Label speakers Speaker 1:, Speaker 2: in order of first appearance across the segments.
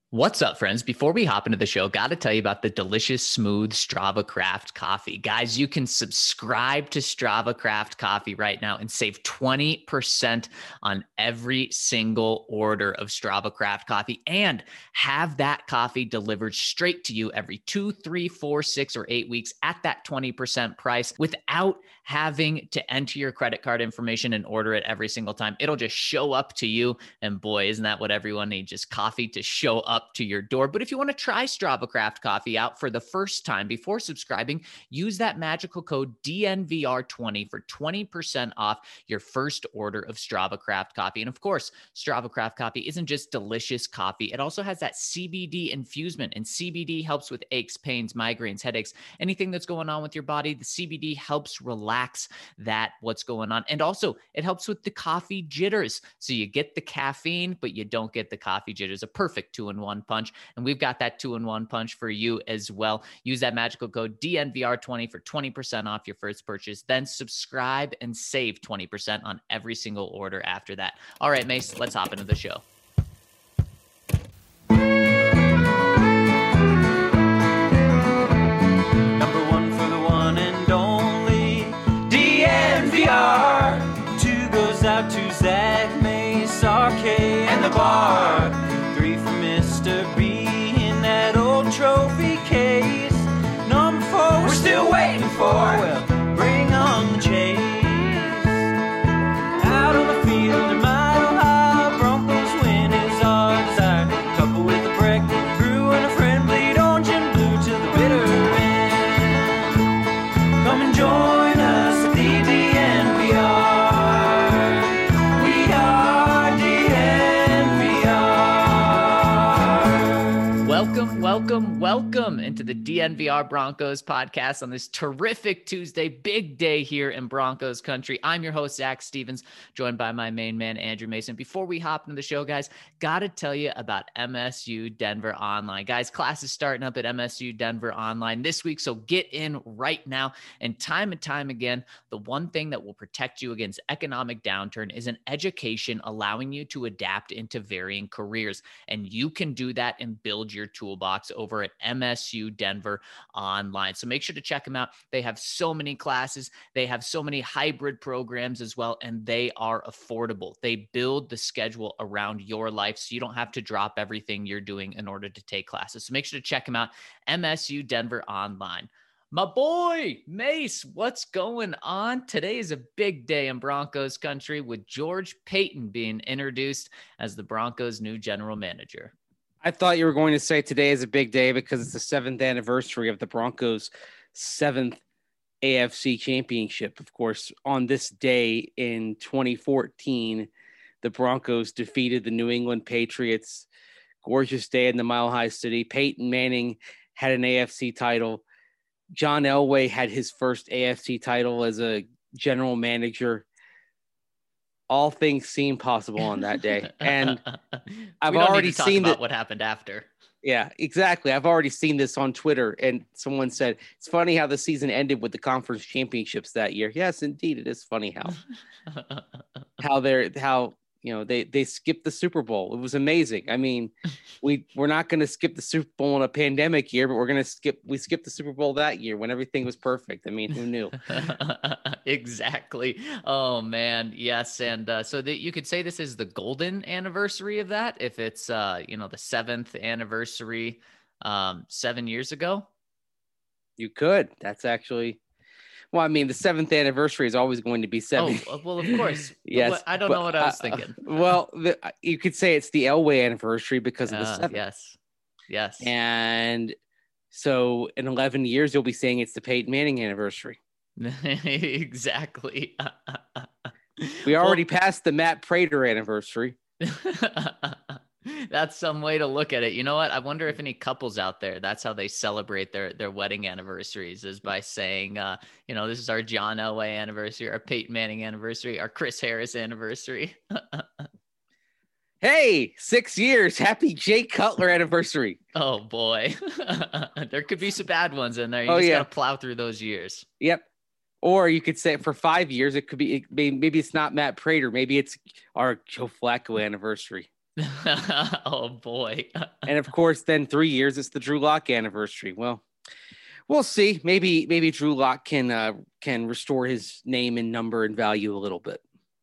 Speaker 1: What's up, friends? Before we hop into the show, got to tell you about the delicious, smooth Strava Craft coffee. Guys, you can subscribe to Strava Craft coffee right now and save 20% on every single order of Strava Craft coffee and have that coffee delivered straight to you every 2, 3, 4, 6, or 8 weeks at that 20% price without having to enter your credit card information and order it every single time. It'll just show up to you. And boy, isn't that what everyone needs? Just coffee to show up to your door. But if you want to try Strava Craft coffee out for the first time before subscribing, use that magical code DNVR20 for 20% off your first order of Strava Craft coffee. And of course, Strava Craft coffee isn't just delicious coffee. It also has that CBD infusement, and CBD helps with aches, pains, migraines, headaches, anything that's going on with your body. The CBD helps relax what's going on. And also it helps with the coffee jitters. So you get the caffeine, but you don't get the coffee jitters. A perfect 2-in-1 punch. And we've got that 2-in-1 punch for you as well. Use that magical code DNVR20 for 20% off your first purchase. Then subscribe and save 20% on every single order after that. All right, Mace, let's hop into the show.
Speaker 2: Number one for the one and only DNVR. 2 goes out to Zach, Mace, RK, and the bar. 3 for Mr. B in that old trophy case. Number 4 we're still waiting for. Well, bring on the chase. Out on the field in Mile High, Broncos win is our desire. Couple with a break, brew and a friend, bleed orange and blue to the bitter end. Come and join us at the DNVR. We are DNVR.
Speaker 1: Welcome into the DNVR Broncos podcast on this terrific Tuesday, big day here in Broncos country. I'm your host, Zach Stevens, joined by my main man, Andrew Mason. Before we hop into the show, guys, got to tell you about MSU Denver Online. Guys, class is starting up at MSU Denver Online this week, so get in right now. And time again, the one thing that will protect you against economic downturn is an education allowing you to adapt into varying careers. And you can do that and build your toolbox over at MSU Denver Online. So make sure to check them out. They have so many classes. They have so many hybrid programs as well, and they are affordable. They build the schedule around your life so you don't have to drop everything you're doing in order to take classes. So make sure to check them out, MSU Denver Online. My boy, Mace, what's going on? Today is a big day in Broncos country with George Paton being introduced as the Broncos' new general manager.
Speaker 3: I thought you were going to say today is a big day because it's the 7th anniversary of the Broncos' 7th AFC championship. Of course, on this day in 2014, the Broncos defeated the New England Patriots. Gorgeous day in the Mile High City. Peyton Manning had an AFC title. John Elway had his first AFC title as a general manager. All things seem possible on that day. And I've already seen
Speaker 1: what happened after.
Speaker 3: Yeah, exactly. I've already seen this on Twitter, and someone said, it's funny how the season ended with the conference championships that year. Yes, indeed. It is funny how they skipped the Super Bowl. It was amazing. I mean, we're not going to skip the Super Bowl in a pandemic year, but we skipped the Super Bowl that year when everything was perfect. I mean, who knew?
Speaker 1: Exactly. Oh man. Yes. And so that you could say this is the golden anniversary of that. If it's, the 7th anniversary, 7 years ago.
Speaker 3: You could. That's actually, well, I mean, the 7th anniversary is always going to be 7.
Speaker 1: Oh, well, of course.
Speaker 3: Yes.
Speaker 1: I don't know what I was thinking.
Speaker 3: You could say it's the Elway anniversary because of the 7th.
Speaker 1: Yes.
Speaker 3: And so in 11 years, you'll be saying it's the Peyton Manning anniversary.
Speaker 1: Exactly.
Speaker 3: We already passed the Matt Prater anniversary.
Speaker 1: That's some way to look at it. You know what? I wonder if any couples out there, that's how they celebrate their wedding anniversaries, is by saying, this is our John Elway anniversary, our Peyton Manning anniversary, our Chris Harris anniversary.
Speaker 3: Hey, 6 years. Happy Jay Cutler anniversary.
Speaker 1: Oh, boy. There could be some bad ones in there. You just got to plow through those years.
Speaker 3: Yep. Or you could say for 5 years, maybe it's not Matt Prater. Maybe it's our Joe Flacco anniversary.
Speaker 1: Oh boy.
Speaker 3: And of course, then 3 years, it's the Drew Lock anniversary. Well, we'll see. Maybe Drew Lock can restore his name and number and value a little bit.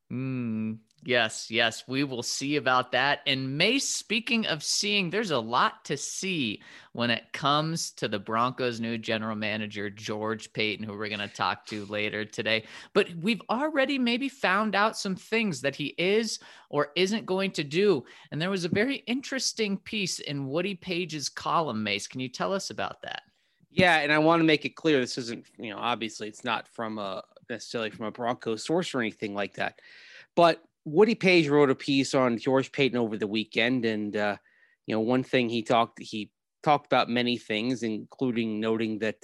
Speaker 1: Yes, we will see about that. And Mace, speaking of seeing, there's a lot to see when it comes to the Broncos' new general manager, George Paton, who we're going to talk to later today. But we've already maybe found out some things that he is or isn't going to do. And there was a very interesting piece in Woody Page's column, Mace. Can you tell us about that?
Speaker 3: Yeah, and I want to make it clear, this isn't, obviously it's not from necessarily from a Broncos source or anything like that. But Woody Page wrote a piece on George Paton over the weekend, and one thing he talked about many things, including noting that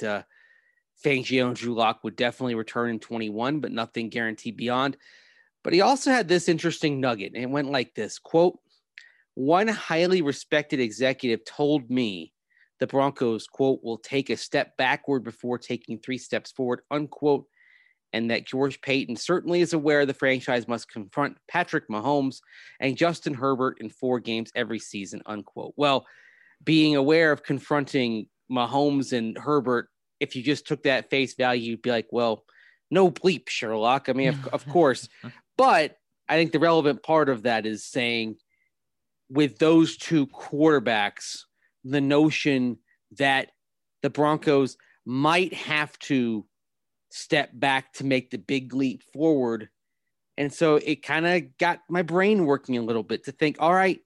Speaker 3: Fangio and Drew Lock would definitely return in 21, but nothing guaranteed beyond. But he also had this interesting nugget, and it went like this, quote, "One highly respected executive told me the Broncos, quote, will take a step backward before taking 3 steps forward, unquote, and that George Paton certainly is aware the franchise must confront Patrick Mahomes and Justin Herbert in 4 games every season, unquote." Well, being aware of confronting Mahomes and Herbert, if you just took that face value, you'd be like, well, no bleep, Sherlock. I mean, of course. But I think the relevant part of that is saying with those 2 quarterbacks, the notion that the Broncos might have to step back to make the big leap forward. And so it kind of got my brain working a little bit to think, all right,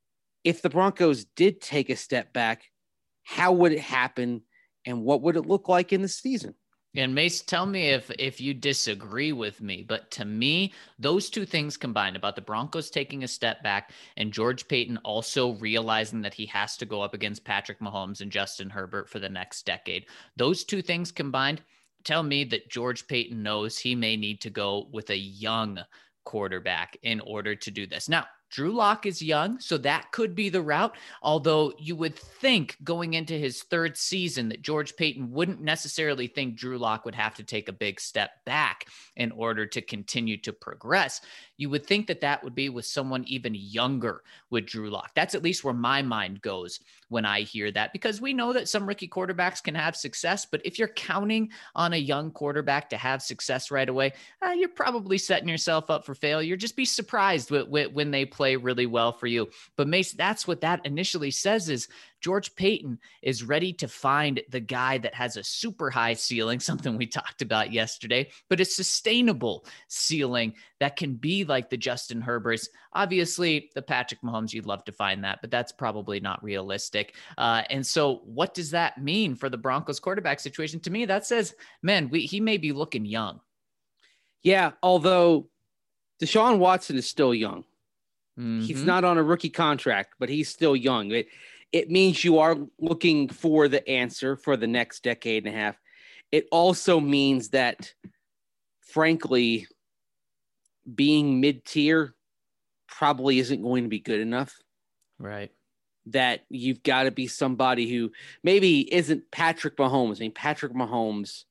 Speaker 3: if the Broncos did take a step back, how would it happen and what would it look like in the season?
Speaker 1: And Mace, tell me if you disagree with me, but to me, those 2 things combined about the Broncos taking a step back and George Paton also realizing that he has to go up against Patrick Mahomes and Justin Herbert for the next decade. Those 2 things combined tell me that George Paton knows he may need to go with a young quarterback in order to do this. Now, Drew Lock is young, so that could be the route. Although you would think going into his 3rd season that George Paton wouldn't necessarily think Drew Lock would have to take a big step back in order to continue to progress. You would think that that would be with someone even younger with Drew Lock. That's at least where my mind goes when I hear that, because we know that some rookie quarterbacks can have success, but if you're counting on a young quarterback to have success right away, you're probably setting yourself up for failure. Just be surprised when they play really well for you. But Mace, that's what that initially says is George Paton is ready to find the guy that has a super high ceiling, something we talked about yesterday, but a sustainable ceiling that can be like the Justin Herberts. Obviously, the Patrick Mahomes, you'd love to find that, but that's probably not realistic. And so what does that mean for the Broncos quarterback situation? To me, that says, man, he may be looking young.
Speaker 3: Yeah, although Deshaun Watson is still young.
Speaker 1: Mm-hmm.
Speaker 3: He's not on a rookie contract, but he's still young. It means you are looking for the answer for the next decade and a half. It also means that, frankly, being mid-tier probably isn't going to be good enough.
Speaker 1: Right.
Speaker 3: That you've got to be somebody who maybe isn't Patrick Mahomes. I mean, Patrick Mahomes,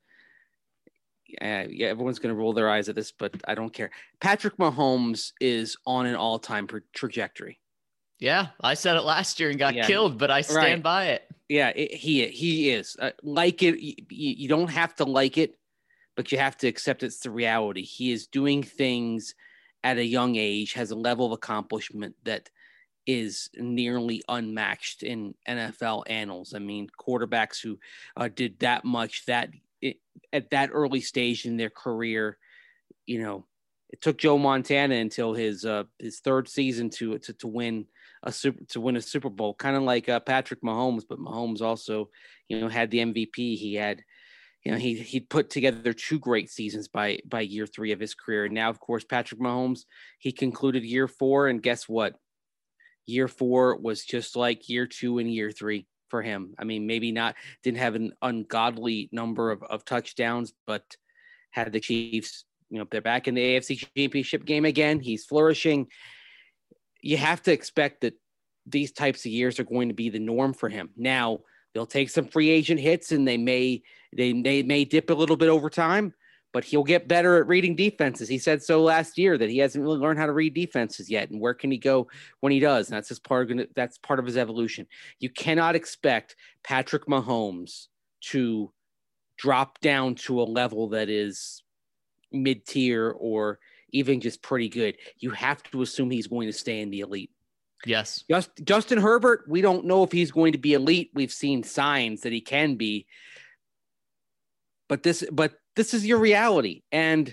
Speaker 3: everyone's going to roll their eyes at this, but I don't care. Patrick Mahomes is on an all-time trajectory.
Speaker 1: Yeah, I said it last year and got killed, but I stand by it.
Speaker 3: Yeah, he is. Like it, you don't have to like it, but you have to accept it's the reality. He is doing things at a young age, has a level of accomplishment that is nearly unmatched in NFL annals. I mean, quarterbacks who did that much at that early stage in their career, it took Joe Montana until his 3rd season to win a Super Bowl, kind of like Patrick Mahomes, but Mahomes also, had the MVP. He had, he'd put together 2 great seasons by year 3 of his career. And now, of course, Patrick Mahomes, he concluded year 4, and guess what? Year 4 was just like year 2 and year 3 for him. I mean, maybe didn't have an ungodly number of touchdowns, but had the Chiefs, they're back in the AFC Championship game again. He's flourishing. You have to expect that these types of years are going to be the norm for him. Now, they'll take some free agent hits and they may dip a little bit over time, but he'll get better at reading defenses. He said so last year that he hasn't really learned how to read defenses yet. And where can he go when he does? And that's part of his evolution. You cannot expect Patrick Mahomes to drop down to a level that is mid-tier or even just pretty good. You have to assume he's going to stay in the elite.
Speaker 1: Yes.
Speaker 3: Justin Herbert, we don't know if he's going to be elite. We've seen signs that he can be. But this is your reality. And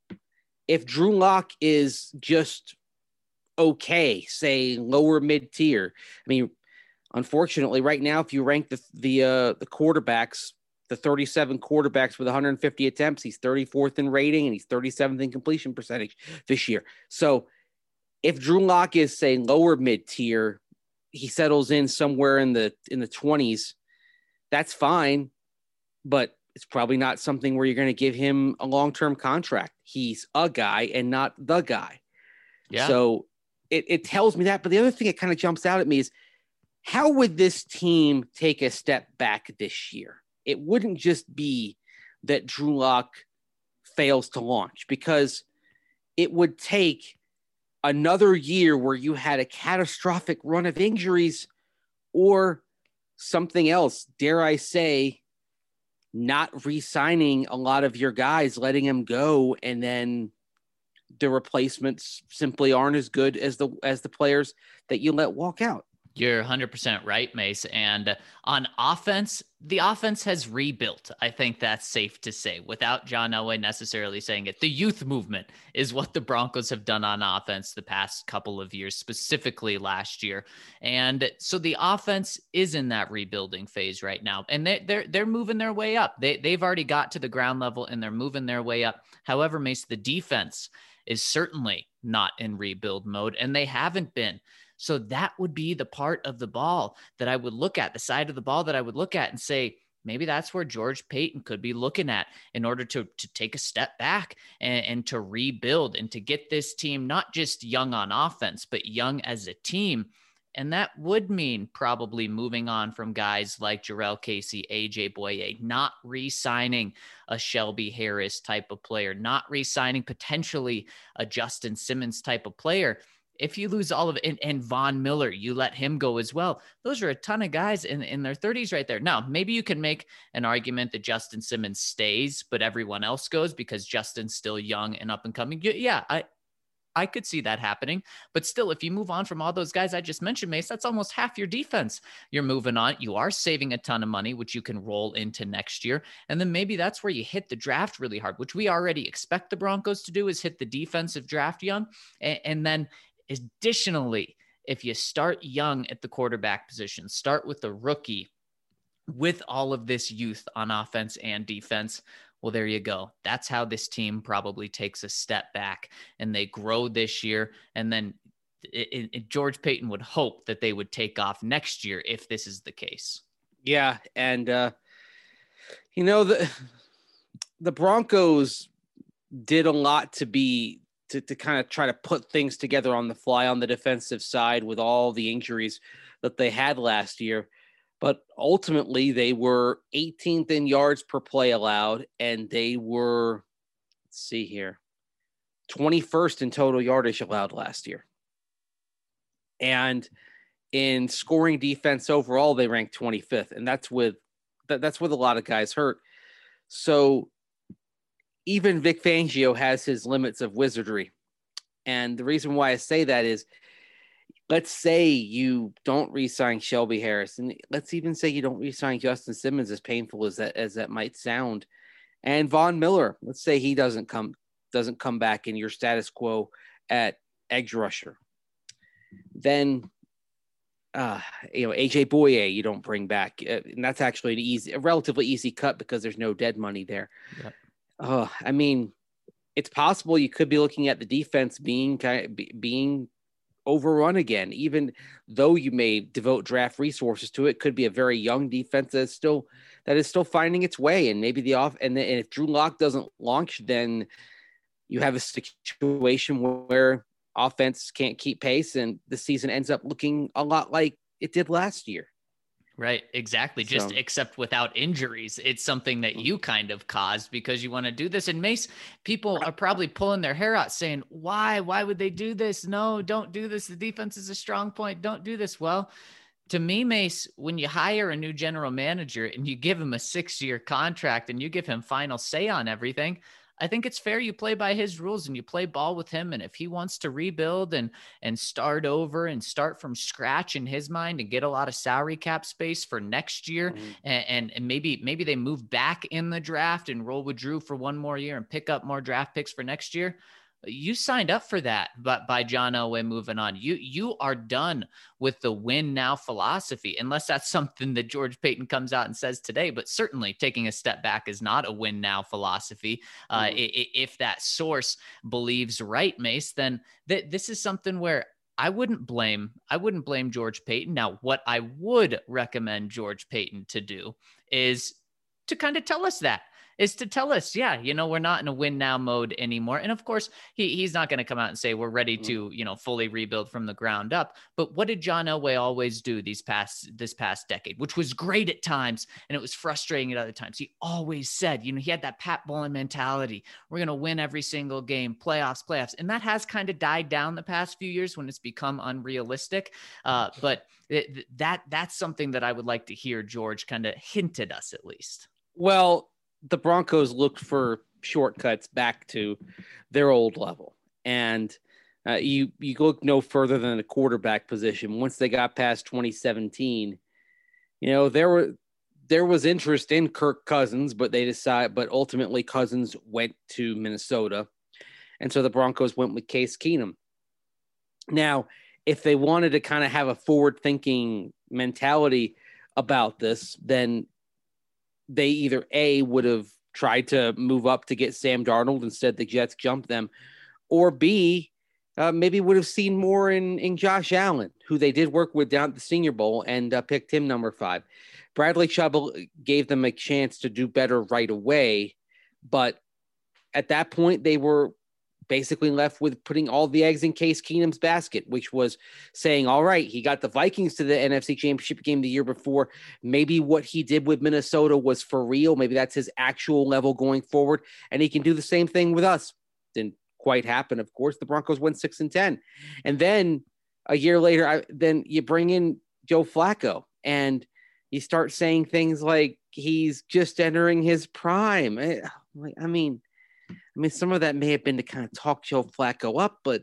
Speaker 3: if Drew Lock is just okay, say lower mid-tier, I mean, unfortunately, right now, if you rank the quarterbacks, the 37 quarterbacks with 150 attempts, he's 34th in rating and he's 37th in completion percentage this year. So if Drew Lock is, say, lower mid-tier, he settles in somewhere in the 20s, that's fine, but it's probably not something where you're going to give him a long-term contract. He's a guy and not the guy. Yeah. So it tells me that. But the other thing that kind of jumps out at me is, how would this team take a step back this year? It wouldn't just be that Drew Lock fails to launch, because it would take another year where you had a catastrophic run of injuries or something else, dare I say, not re-signing a lot of your guys, letting them go, and then the replacements simply aren't as good as the players that you let walk out.
Speaker 1: You're 100% right, Mace. And on offense, the offense has rebuilt. I think that's safe to say without John Elway necessarily saying it. The youth movement is what the Broncos have done on offense the past couple of years, specifically last year. And so the offense is in that rebuilding phase right now. And they're moving their way up. They've already got to the ground level and they're moving their way up. However, Mace, the defense is certainly not in rebuild mode, and they haven't been. So that would be the part of the ball that I would look at, the side of the ball that I would look at and say, maybe that's where George Paton could be looking at in order to take a step back and to rebuild and to get this team not just young on offense, but young as a team. And that would mean probably moving on from guys like Jurrell Casey, AJ Boye, not re-signing a Shelby Harris type of player, not re-signing potentially a Justin Simmons type of player. If you lose all of it, and Von Miller, you let him go as well. Those are a ton of guys in their 30s right there. Now, maybe you can make an argument that Justin Simmons stays, but everyone else goes because Justin's still young and up and coming. Yeah, I could see that happening. But still, if you move on from all those guys I just mentioned, Mace, that's almost half your defense. You're moving on. You are saving a ton of money, which you can roll into next year. And then maybe that's where you hit the draft really hard, which we already expect the Broncos to do, is hit the defensive draft young. And then additionally, if you start young at the quarterback position, start with the rookie with all of this youth on offense and defense, well, there you go. That's how this team probably takes a step back and they grow this year. And then George Paton would hope that they would take off next year if this is the case.
Speaker 3: Yeah. And, the Broncos did a lot to kind of try to put things together on the fly on the defensive side with all the injuries that they had last year. But ultimately, they were 18th in yards per play allowed, and they were, 21st in total yardage allowed last year. And in scoring defense overall, they ranked 25th, and that's with a lot of guys hurt. So even Vic Fangio has his limits of wizardry. And the reason why I say that is, let's say you don't re-sign Shelby Harris, and let's even say you don't re-sign Justin Simmons, as painful as that might sound. And Von Miller, let's say he doesn't come back in your status quo at edge rusher. Then AJ Boye you don't bring back, and that's actually a relatively easy cut because there's no dead money there. Yep. I mean, it's possible you could be looking at the defense being overrun again, even though you may devote draft resources to it. Could be a very young defense that is still finding its way, and maybe and if Drew Lock doesn't launch, then you have a situation where offense can't keep pace, and the season ends up looking a lot like it did last year.
Speaker 1: Right, exactly. Just except without injuries. It's something that you kind of caused because you want to do this. And Mace, people are probably pulling their hair out saying, why? Why would they do this? No, don't do this. The defense is a strong point. Don't do this. Well, to me, Mace, when you hire a new general manager and you give him a 6-year contract and you give him final say on everything, I think it's fair you play by his rules and you play ball with him. And if he wants to rebuild and start over and start from scratch in his mind and get a lot of salary cap space for next year, and maybe they move back in the draft and roll with Drew for one more year and pick up more draft picks for next year. You signed up for that, but by John Elway moving on, you are done with the win now philosophy, unless that's something that George Paton comes out and says today. But certainly taking a step back is not a win now philosophy. If that source believes right, Mace, then this is something where I wouldn't blame George Paton. Now, what I would recommend George Paton to do is to kind of tell us yeah, we're not in a win now mode anymore. And of course, he's not going to come out and say we're ready to, fully rebuild from the ground up. But what did John Elway always do this past decade, which was great at times and it was frustrating at other times? He always said, he had that Pat Bowlen mentality. We're going to win every single game, playoffs. And that has kind of died down the past few years when it's become unrealistic. But that's something that I would like to hear George kind of hint at us at least.
Speaker 3: Well, the Broncos looked for shortcuts back to their old level. And you look no further than the quarterback position. Once they got past 2017, there was interest in Kirk Cousins, but ultimately Cousins went to Minnesota. And so the Broncos went with Case Keenum. Now, if they wanted to kind of have a forward-thinking mentality about this, then they either A, would have tried to move up to get Sam Darnold. Instead, the Jets jumped them, or B, maybe would have seen more in Josh Allen, who they did work with down at the Senior Bowl, and picked him number 5. Bradley Chubb gave them a chance to do better right away, but at that point, they were basically left with putting all the eggs in Case Keenum's basket, which was saying, all right, he got the Vikings to the NFC Championship game the year before. Maybe what he did with Minnesota was for real. Maybe that's his actual level going forward, and he can do the same thing with us. Didn't quite happen, of course. The Broncos went 6-10. And then a year later, then you bring in Joe Flacco, and you start saying things like he's just entering his prime. I mean, some of that may have been to kind of talk Joe Flacco up, but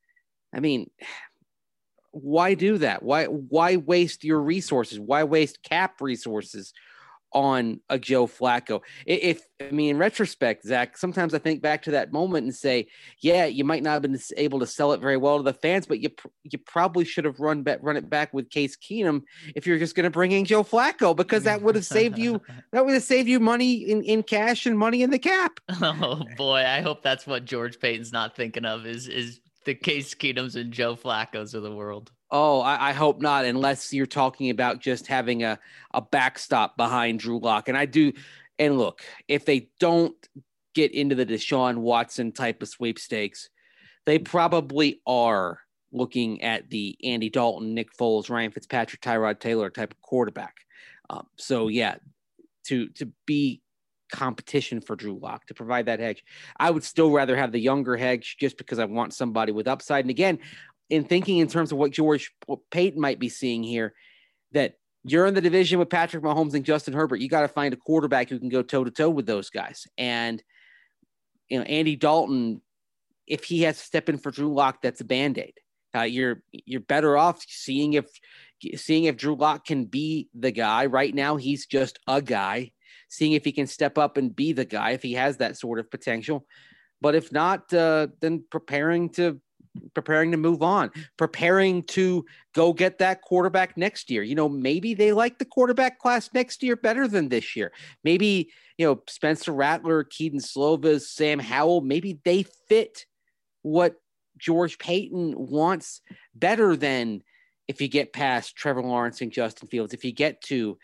Speaker 3: why do that? Why waste your resources? Why waste cap resources on a Joe Flacco? In retrospect, Zach, sometimes I think back to that moment and say, yeah, you might not have been able to sell it very well to the fans, but you probably should have run it back with Case Keenum if you're just going to bring in Joe Flacco, because that would have saved you money in cash and money in the cap.
Speaker 1: Oh boy, I hope that's what George Paton's not thinking of is the Case Keenums and Joe Flacco's of the world.
Speaker 3: Oh, I hope not, unless you're talking about just having a backstop behind Drew Lock. And I do. And look, if they don't get into the Deshaun Watson type of sweepstakes, they probably are looking at the Andy Dalton, Nick Foles, Ryan Fitzpatrick, Tyrod Taylor type of quarterback. So yeah, to be competition for Drew Lock, to provide that hedge. I would still rather have the younger hedge just because I want somebody with upside. And again, in thinking in terms of what George Paton might be seeing here, that you're in the division with Patrick Mahomes and Justin Herbert. You got to find a quarterback who can go toe to toe with those guys. And, Andy Dalton, if he has to step in for Drew Lock, that's a Band-Aid. You're better off seeing if Drew Lock can be the guy. Right now, he's just a guy. Seeing if he can step up and be the guy, if he has that sort of potential. But if not, then preparing to move on, preparing to go get that quarterback next year. Maybe they like the quarterback class next year better than this year. Maybe, Spencer Rattler, Keaton Slovis, Sam Howell, maybe they fit what George Paton wants better than if you get past Trevor Lawrence and Justin Fields, if you get to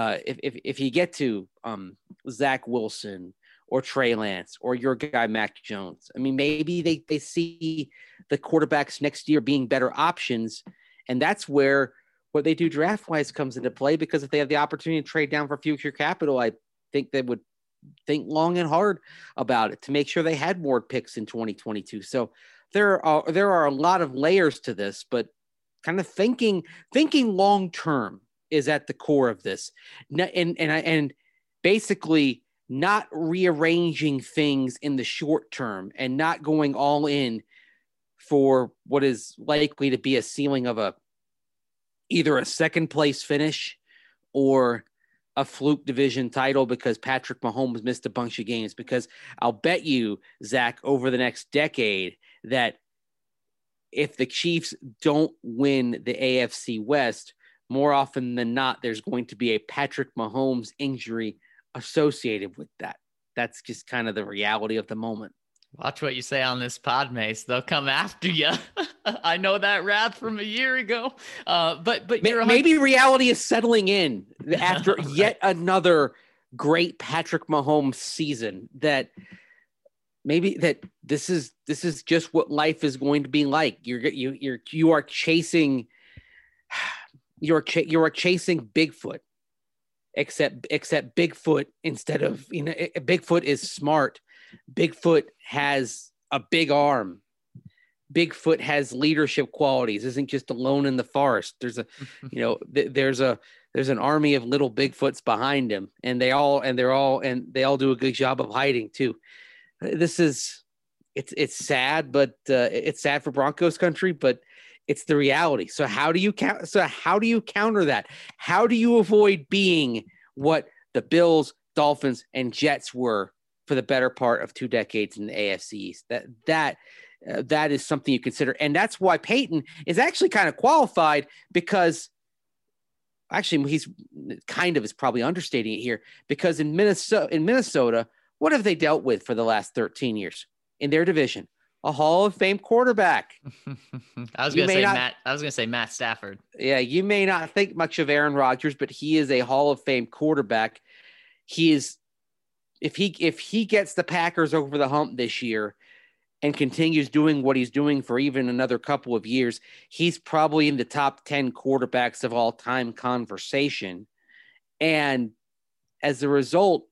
Speaker 3: Zach Wilson or Trey Lance or your guy, Mac Jones. Maybe they see the quarterbacks next year being better options. And that's where what they do draft wise comes into play, because if they have the opportunity to trade down for future capital, I think they would think long and hard about it to make sure they had more picks in 2022. So there are a lot of layers to this, but kind of thinking long term is at the core of this, and basically not rearranging things in the short term and not going all in for what is likely to be a ceiling of either a second place finish or a fluke division title because Patrick Mahomes missed a bunch of games. Because I'll bet you, Zach, over the next decade, that if the Chiefs don't win the AFC West, more often than not, there's going to be a Patrick Mahomes injury associated with that. That's just kind of the reality of the moment.
Speaker 1: Watch what you say on this pod, Mace. They'll come after you. I know that wrath from a year ago. But
Speaker 3: maybe reality is settling in after yet another great Patrick Mahomes season. That maybe that this is just what life is going to be like. You are chasing Bigfoot, except Bigfoot, instead of, Bigfoot is smart. Bigfoot has a big arm. Bigfoot has leadership qualities. Isn't just alone in the forest. There's there's an army of little Bigfoots behind him, and they all do a good job of hiding too. It's sad, but it's sad for Broncos country, but it's the reality. So how do you counter that? How do you avoid being what the Bills, Dolphins, and Jets were for the better part of 2 decades in the AFC East? That is something you consider. And that's why Peyton is actually kind of qualified, because actually he's is probably understating it here, because in Minnesota, what have they dealt with for the last 13 years in their division? A Hall of Fame quarterback.
Speaker 1: I was going to say Matt Stafford.
Speaker 3: Yeah, you may not think much of Aaron Rodgers, but he is a Hall of Fame quarterback. If he gets the Packers over the hump this year and continues doing what he's doing for even another couple of years, he's probably in the top 10 quarterbacks of all time conversation. And as a result,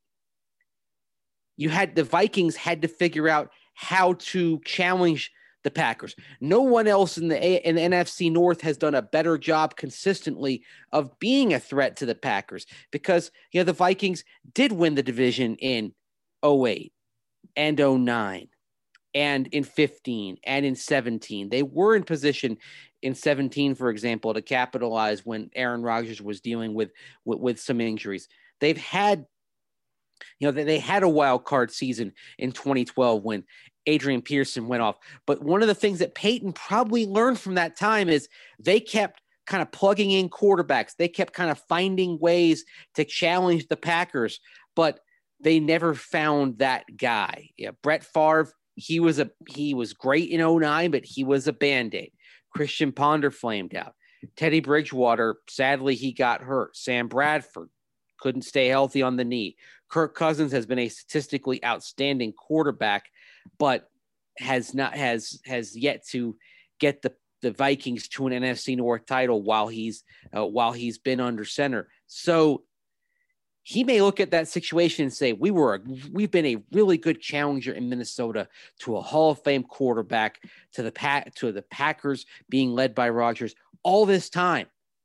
Speaker 3: the Vikings had to figure out how to challenge the Packers. No one else in the NFC North has done a better job consistently of being a threat to the Packers, because the Vikings did win the division in 2008 and 2009 and in 2015 and in 2017. They were in position in 2017, for example, to capitalize when Aaron Rodgers was dealing with some injuries. They've had they had a wild card season in 2012 when Adrian Peterson went off. But one of the things that Peyton probably learned from that time is they kept kind of plugging in quarterbacks. They kept kind of finding ways to challenge the Packers, but they never found that guy. Yeah, Brett Favre, he was great in 2009, but he was a Band-Aid. Christian Ponder flamed out. Teddy Bridgewater, sadly, he got hurt. Sam Bradford couldn't stay healthy on the knee. Kirk Cousins has been a statistically outstanding quarterback, but has yet to get the Vikings to an NFC North title while he's been under center. So he may look at that situation and say, we've been a really good challenger in Minnesota to a Hall of Fame quarterback, to the Packers being led by Rodgers all this time.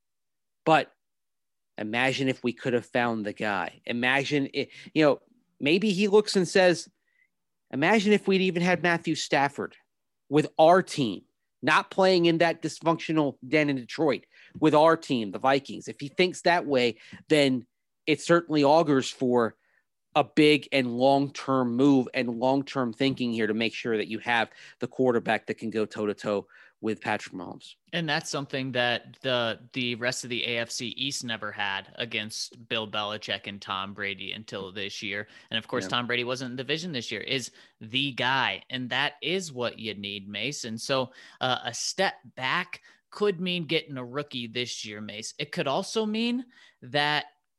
Speaker 3: But imagine if we could have found the guy. Imagine it, maybe he looks and says, imagine if we'd even had Matthew Stafford with our team, not playing in that dysfunctional den in Detroit, with our team, the Vikings. If he thinks that way, then it certainly augurs for a big and long-term move and long-term thinking here to make sure that you have the quarterback that can go toe-to-toe with Patrick Mahomes.
Speaker 1: And that's something that the rest of the AFC East never had against Bill Belichick and Tom Brady until this year. And of course, Tom Brady wasn't in the division this year, is the guy. And that is what you need, Mace. And so a step back could mean getting a rookie this year, Mace. It could also mean that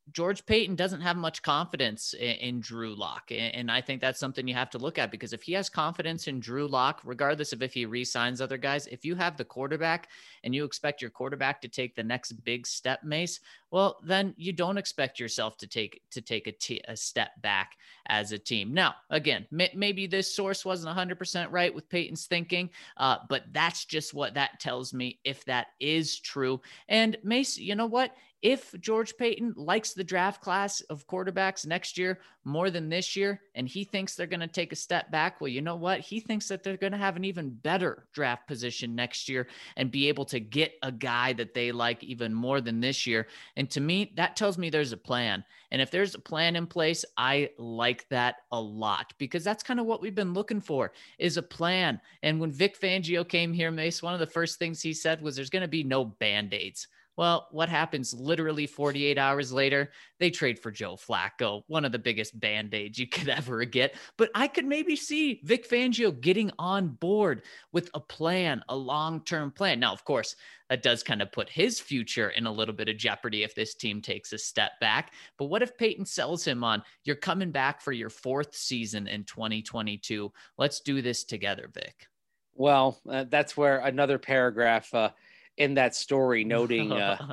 Speaker 1: George Paton doesn't have much confidence in Drew Lock. And I think that's something you have to look at, because if he has confidence in Drew Lock, regardless of if he re-signs other guys, if you have the quarterback and you expect your quarterback to take the next big step, Mace, well, then you don't expect yourself to take a step back as a team. Now, again, maybe this source wasn't 100% right with Paton's thinking, but that's just what that tells me, if that is true. And Mace, you know what? If George Paton likes the draft class of quarterbacks next year more than this year, and he thinks they're going to take a step back, well, you know what? He thinks that they're going to have an even better draft position next year and be able to get a guy that they like even more than this year. And to me, that tells me there's a plan. And if there's a plan in place, I like that a lot, because that's kind of what we've been looking for, is a plan. And when Vic Fangio came here, Mace, one of the first things he said was there's going to be no Band-Aids. Well, what happens literally 48 hours later? They trade for Joe Flacco, one of the biggest Band-Aids you could ever get. But I could maybe see Vic Fangio getting on board with a plan, a long-term plan. Now, of course, that does kind of put his future in a little bit of jeopardy if this team takes a step back. But what if Paton sells him on, you're coming back for your 4th season in 2022? Let's do this together, Vic.
Speaker 3: Well, that's where another paragraph in that story noting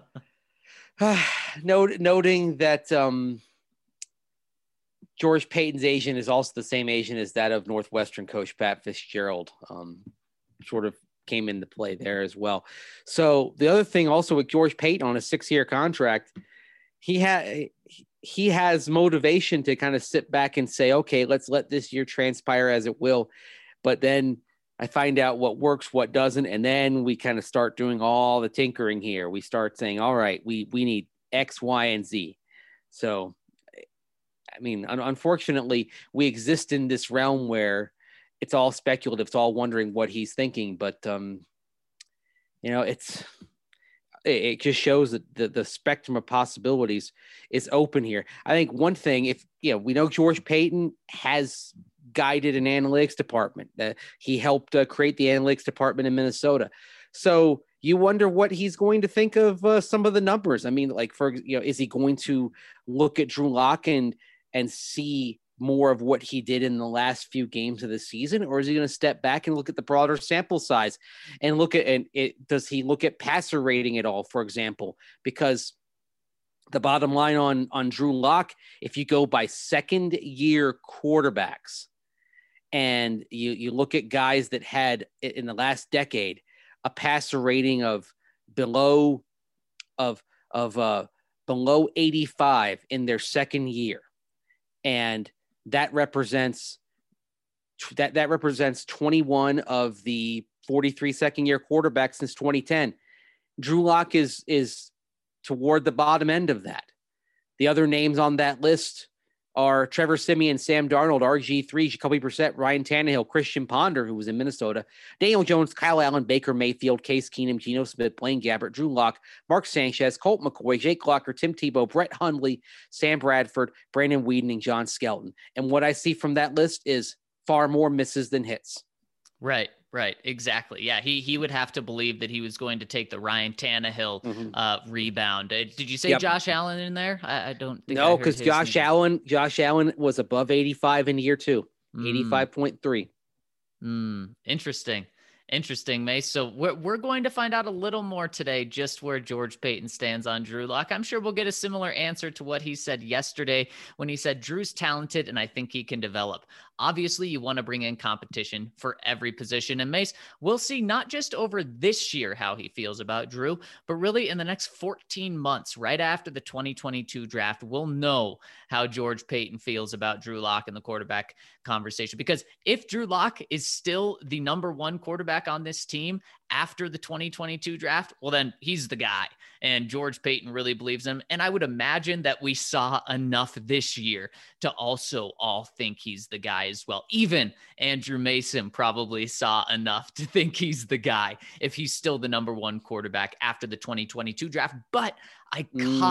Speaker 3: noting that George Paton's agent is also the same agent as that of Northwestern coach Pat Fitzgerald, sort of came into play there as well. So the other thing also with George Paton on a 6-year contract, he has motivation to kind of sit back and say, okay, let's let this year transpire as it will. But then I find out what works, what doesn't, and then we kind of start doing all the tinkering here. We start saying, all right, we need X, Y, and Z. So, I mean, unfortunately, we exist in this realm where it's all speculative. It's all wondering what he's thinking. But, it just shows that the spectrum of possibilities is open here. I think one thing, we know George Paton has guided an analytics department. He helped create the analytics department in Minnesota. So you wonder what he's going to think of some of the numbers. I mean, like, is he going to look at Drew Lock and see more of what he did in the last few games of the season? Or is he going to step back and look at the broader sample size and does he look at passer rating at all, for example? Because the bottom line on Drew Lock, if you go by second-year quarterbacks, and you look at guys that had in the last decade a passer rating of below 85 in their second year, and that represents 21 of the 43 second-year quarterbacks since 2010. Drew Lock is toward the bottom end of that. The other names on that list are Trevor Siemian, Sam Darnold, RG3, Jacoby Brissett, Ryan Tannehill, Christian Ponder, who was in Minnesota, Daniel Jones, Kyle Allen, Baker Mayfield, Case Keenum, Geno Smith, Blaine Gabbert, Drew Lock, Mark Sanchez, Colt McCoy, Jake Locker, Tim Tebow, Brett Hundley, Sam Bradford, Brandon Weeden, and John Skelton. And what I see from that list is far more misses than hits.
Speaker 1: Right. Exactly. Yeah. He would have to believe that he was going to take the Ryan Tannehill rebound. Did you say Josh Allen in there? I don't think.
Speaker 3: No, because Josh Allen was above 85 in year 2, 85.3.
Speaker 1: Interesting, Mace. So we're going to find out a little more today, just where George Paton stands on Drew Lock. I'm sure we'll get a similar answer to what he said yesterday when he said Drew's talented and I think he can develop. Obviously, you want to bring in competition for every position. And Mace, we'll see not just over this year how he feels about Drew, but really in the next 14 months, right after the 2022 draft, we'll know how George Paton feels about Drew Lock in the quarterback conversation. Because if Drew Lock is still the number 1 quarterback on this team after the 2022 draft, well, then he's the guy. And George Paton really believes him. And I would imagine that we saw enough this year to also all think he's the guy as well. Even Andrew Mason probably saw enough to think he's the guy if he's still the number 1 quarterback after the 2022 draft. But I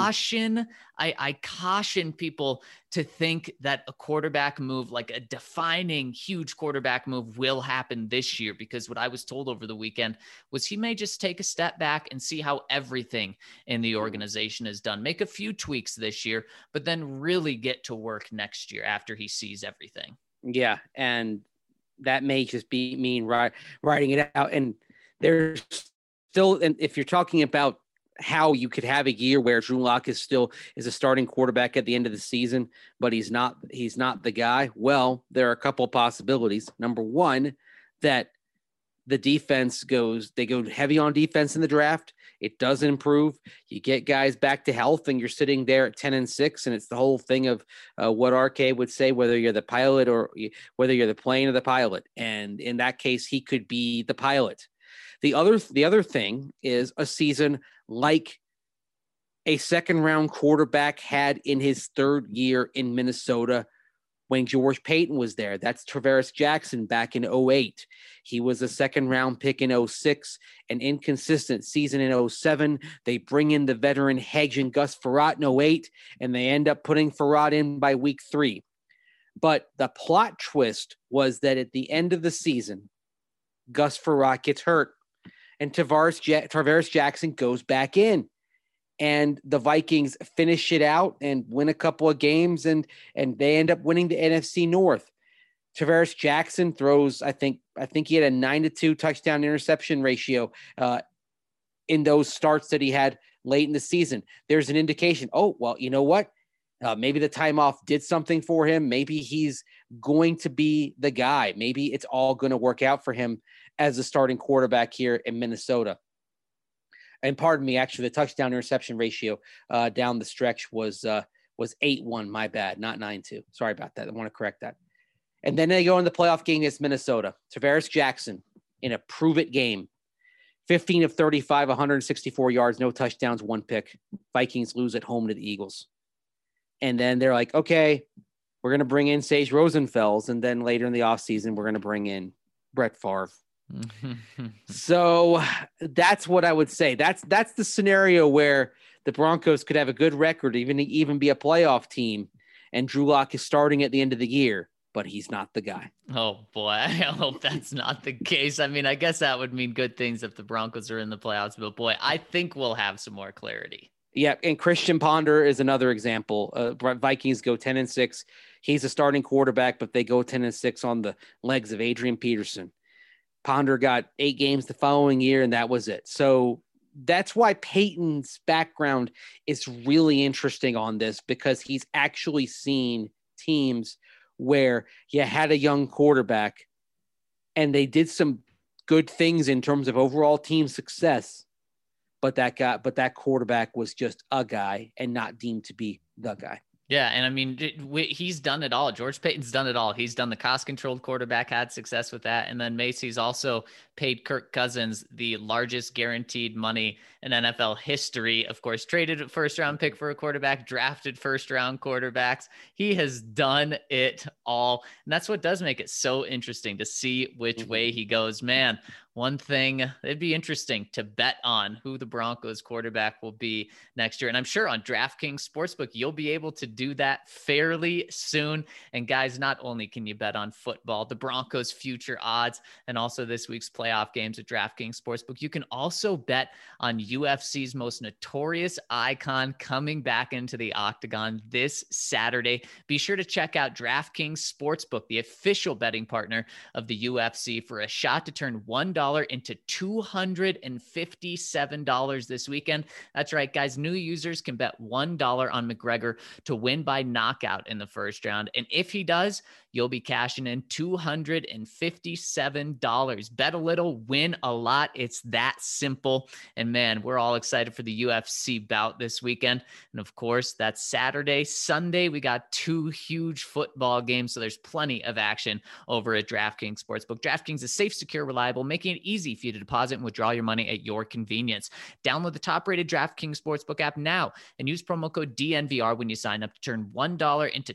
Speaker 1: caution people to think that a quarterback move, like a defining huge quarterback move, will happen this year, because what I was told over the weekend was he may just take a step back and see how everything in the organization is done, make a few tweaks this year, but then really get to work next year after he sees everything.
Speaker 3: Yeah. And that may just be mean writing it out. And there's still, and if you're talking about how you could have a year where Drew Lock is a starting quarterback at the end of the season, but he's not the guy. Well, there are a couple of possibilities. Number one, that the defense they go heavy on defense in the draft. It doesn't improve. You get guys back to health and you're sitting there at 10-6. And it's the whole thing of what RK would say, whether you're the pilot or whether you're the plane or the pilot. And in that case, he could be the pilot. The other thing is a season like a second-round quarterback had in his third year in Minnesota when George Payton was there. That's Travaris Jackson back in 2008. He was a second-round pick in 2006, an inconsistent season in 2007. They bring in the veteran Hedge and Gus Frerotte in 2008, and they end up putting Frerotte in by week 3. But the plot twist was that at the end of the season, Gus Frerotte gets hurt, and Travaris Jackson goes back in, and the Vikings finish it out and win a couple of games, and they end up winning the NFC North. Travaris Jackson throws, I think he had a 9-2 touchdown interception ratio in those starts that he had late in the season. There's an indication, oh, well, you know what? Maybe the time off did something for him. Maybe he's going to be the guy. Maybe it's all going to work out for him as a starting quarterback here in Minnesota. And pardon me, actually, the touchdown interception ratio down the stretch was 8-1. My bad, not 9-2. Sorry about that. I want to correct that. And then they go in the playoff game against Minnesota. Travaris Jackson in a prove-it game. 15 of 35, 164 yards, no touchdowns, 1 pick. Vikings lose at home to the Eagles. And then they're like, okay, we're going to bring in Sage Rosenfels. And then later in the offseason, we're going to bring in Brett Favre. So that's what I would say. That's the scenario where the Broncos could have a good record, even be a playoff team, and Drew Lock is starting at the end of the year, but he's not the guy.
Speaker 1: Oh boy, I hope that's not the case. I mean, I guess that would mean good things if the Broncos are in the playoffs, but boy, I think we'll have some more clarity.
Speaker 3: Yeah, and Christian Ponder is another example. Vikings go 10-6. He's a starting quarterback, but they go 10-6 on the legs of Adrian Peterson. Ponder got 8 games the following year, and that was it. So that's why Peyton's background is really interesting on this, because he's actually seen teams where you had a young quarterback and they did some good things in terms of overall team success, but that quarterback was just a guy and not deemed to be the guy.
Speaker 1: Yeah, and I mean, he's done it all. George Payton's done it all. He's done the cost-controlled quarterback, had success with that. And then Macy's also paid Kirk Cousins the largest guaranteed money in NFL history. Of course, traded a first-round pick for a quarterback, drafted first-round quarterbacks. He has done it all. And that's what does make it so interesting to see which way he goes. Man, one thing, it'd be interesting to bet on who the Broncos quarterback will be next year. And I'm sure on DraftKings Sportsbook, you'll be able to do that fairly soon. And guys, not only can you bet on football, the Broncos future odds, and also this week's playoff games at DraftKings Sportsbook, you can also bet on UFC's most notorious icon coming back into the octagon this Saturday. Be sure to check out DraftKings Sportsbook, the official betting partner of the UFC, for a shot to turn $1 into $257 this weekend. That's right, guys. New users can bet $1 on McGregor to win by knockout in the first round. And if he does, you'll be cashing in $257. Bet a little, win a lot. It's that simple. And man, we're all excited for the UFC bout this weekend. And of course, that's Saturday. Sunday, we got 2 huge football games. So there's plenty of action over at DraftKings Sportsbook. DraftKings is safe, secure, reliable, making making it easy for you to deposit and withdraw your money at your convenience. Download the top-rated DraftKings Sportsbook app now and use promo code DNVR when you sign up to turn $1 into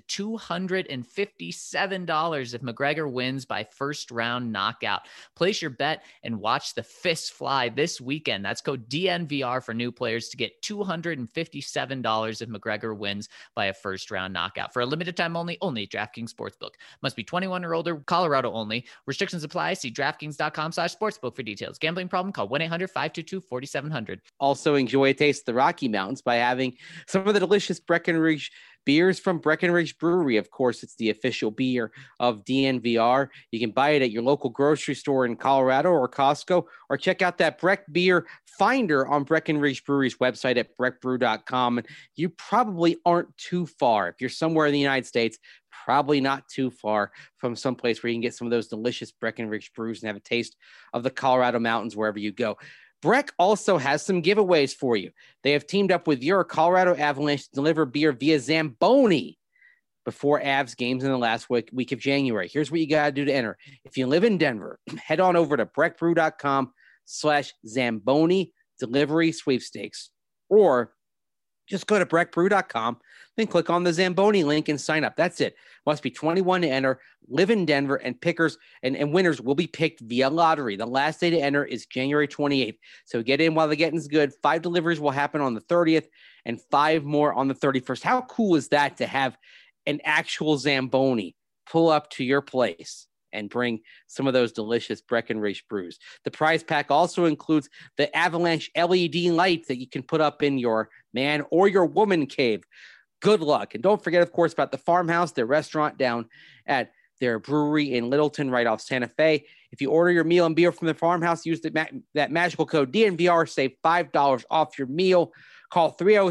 Speaker 1: $257 if McGregor wins by first-round knockout. Place your bet and watch the fists fly this weekend. That's code DNVR for new players to get $257 if McGregor wins by a first-round knockout. For a limited time only at DraftKings Sportsbook. Must be 21 or older, Colorado only. Restrictions apply. See DraftKings.com/sportsbook for details. Gambling problem? Call 1-800-522-4700.
Speaker 3: Also enjoy a taste of the Rocky Mountains by having some of the delicious Breckenridge beers from Breckenridge Brewery. Of course, it's the official beer of DNVR. You can buy it at your local grocery store in Colorado or Costco, or check out that Breck Beer Finder on Breckenridge Brewery's website at breckbrew.com. You probably aren't too far. If you're somewhere in the United States, probably not too far from someplace where you can get some of those delicious Breckenridge brews and have a taste of the Colorado mountains wherever you go. Breck also has some giveaways for you. They have teamed up with your Colorado Avalanche to deliver beer via Zamboni before Avs games in the last week of January. Here's what you got to do to enter. If you live in Denver, head on over to breckbrew.com/Zamboni delivery sweepstakes, or just go to breckbrew.com, then click on the Zamboni link and sign up. That's it. Must be 21 to enter, live in Denver, and pickers and winners will be picked via lottery. The last day to enter is January 28th. So get in while the getting's good. 5 deliveries will happen on the 30th and 5 more on the 31st. How cool is that to have an actual Zamboni pull up to your place and bring some of those delicious Breckenridge brews? The prize pack also includes the Avalanche LED lights that you can put up in your man or your woman cave. Good luck. And don't forget, of course, about the Farmhouse, their restaurant down at their brewery in Littleton, right off Santa Fe. If you order your meal and beer from the Farmhouse, use that magical code DNVR, save $5 off your meal. Call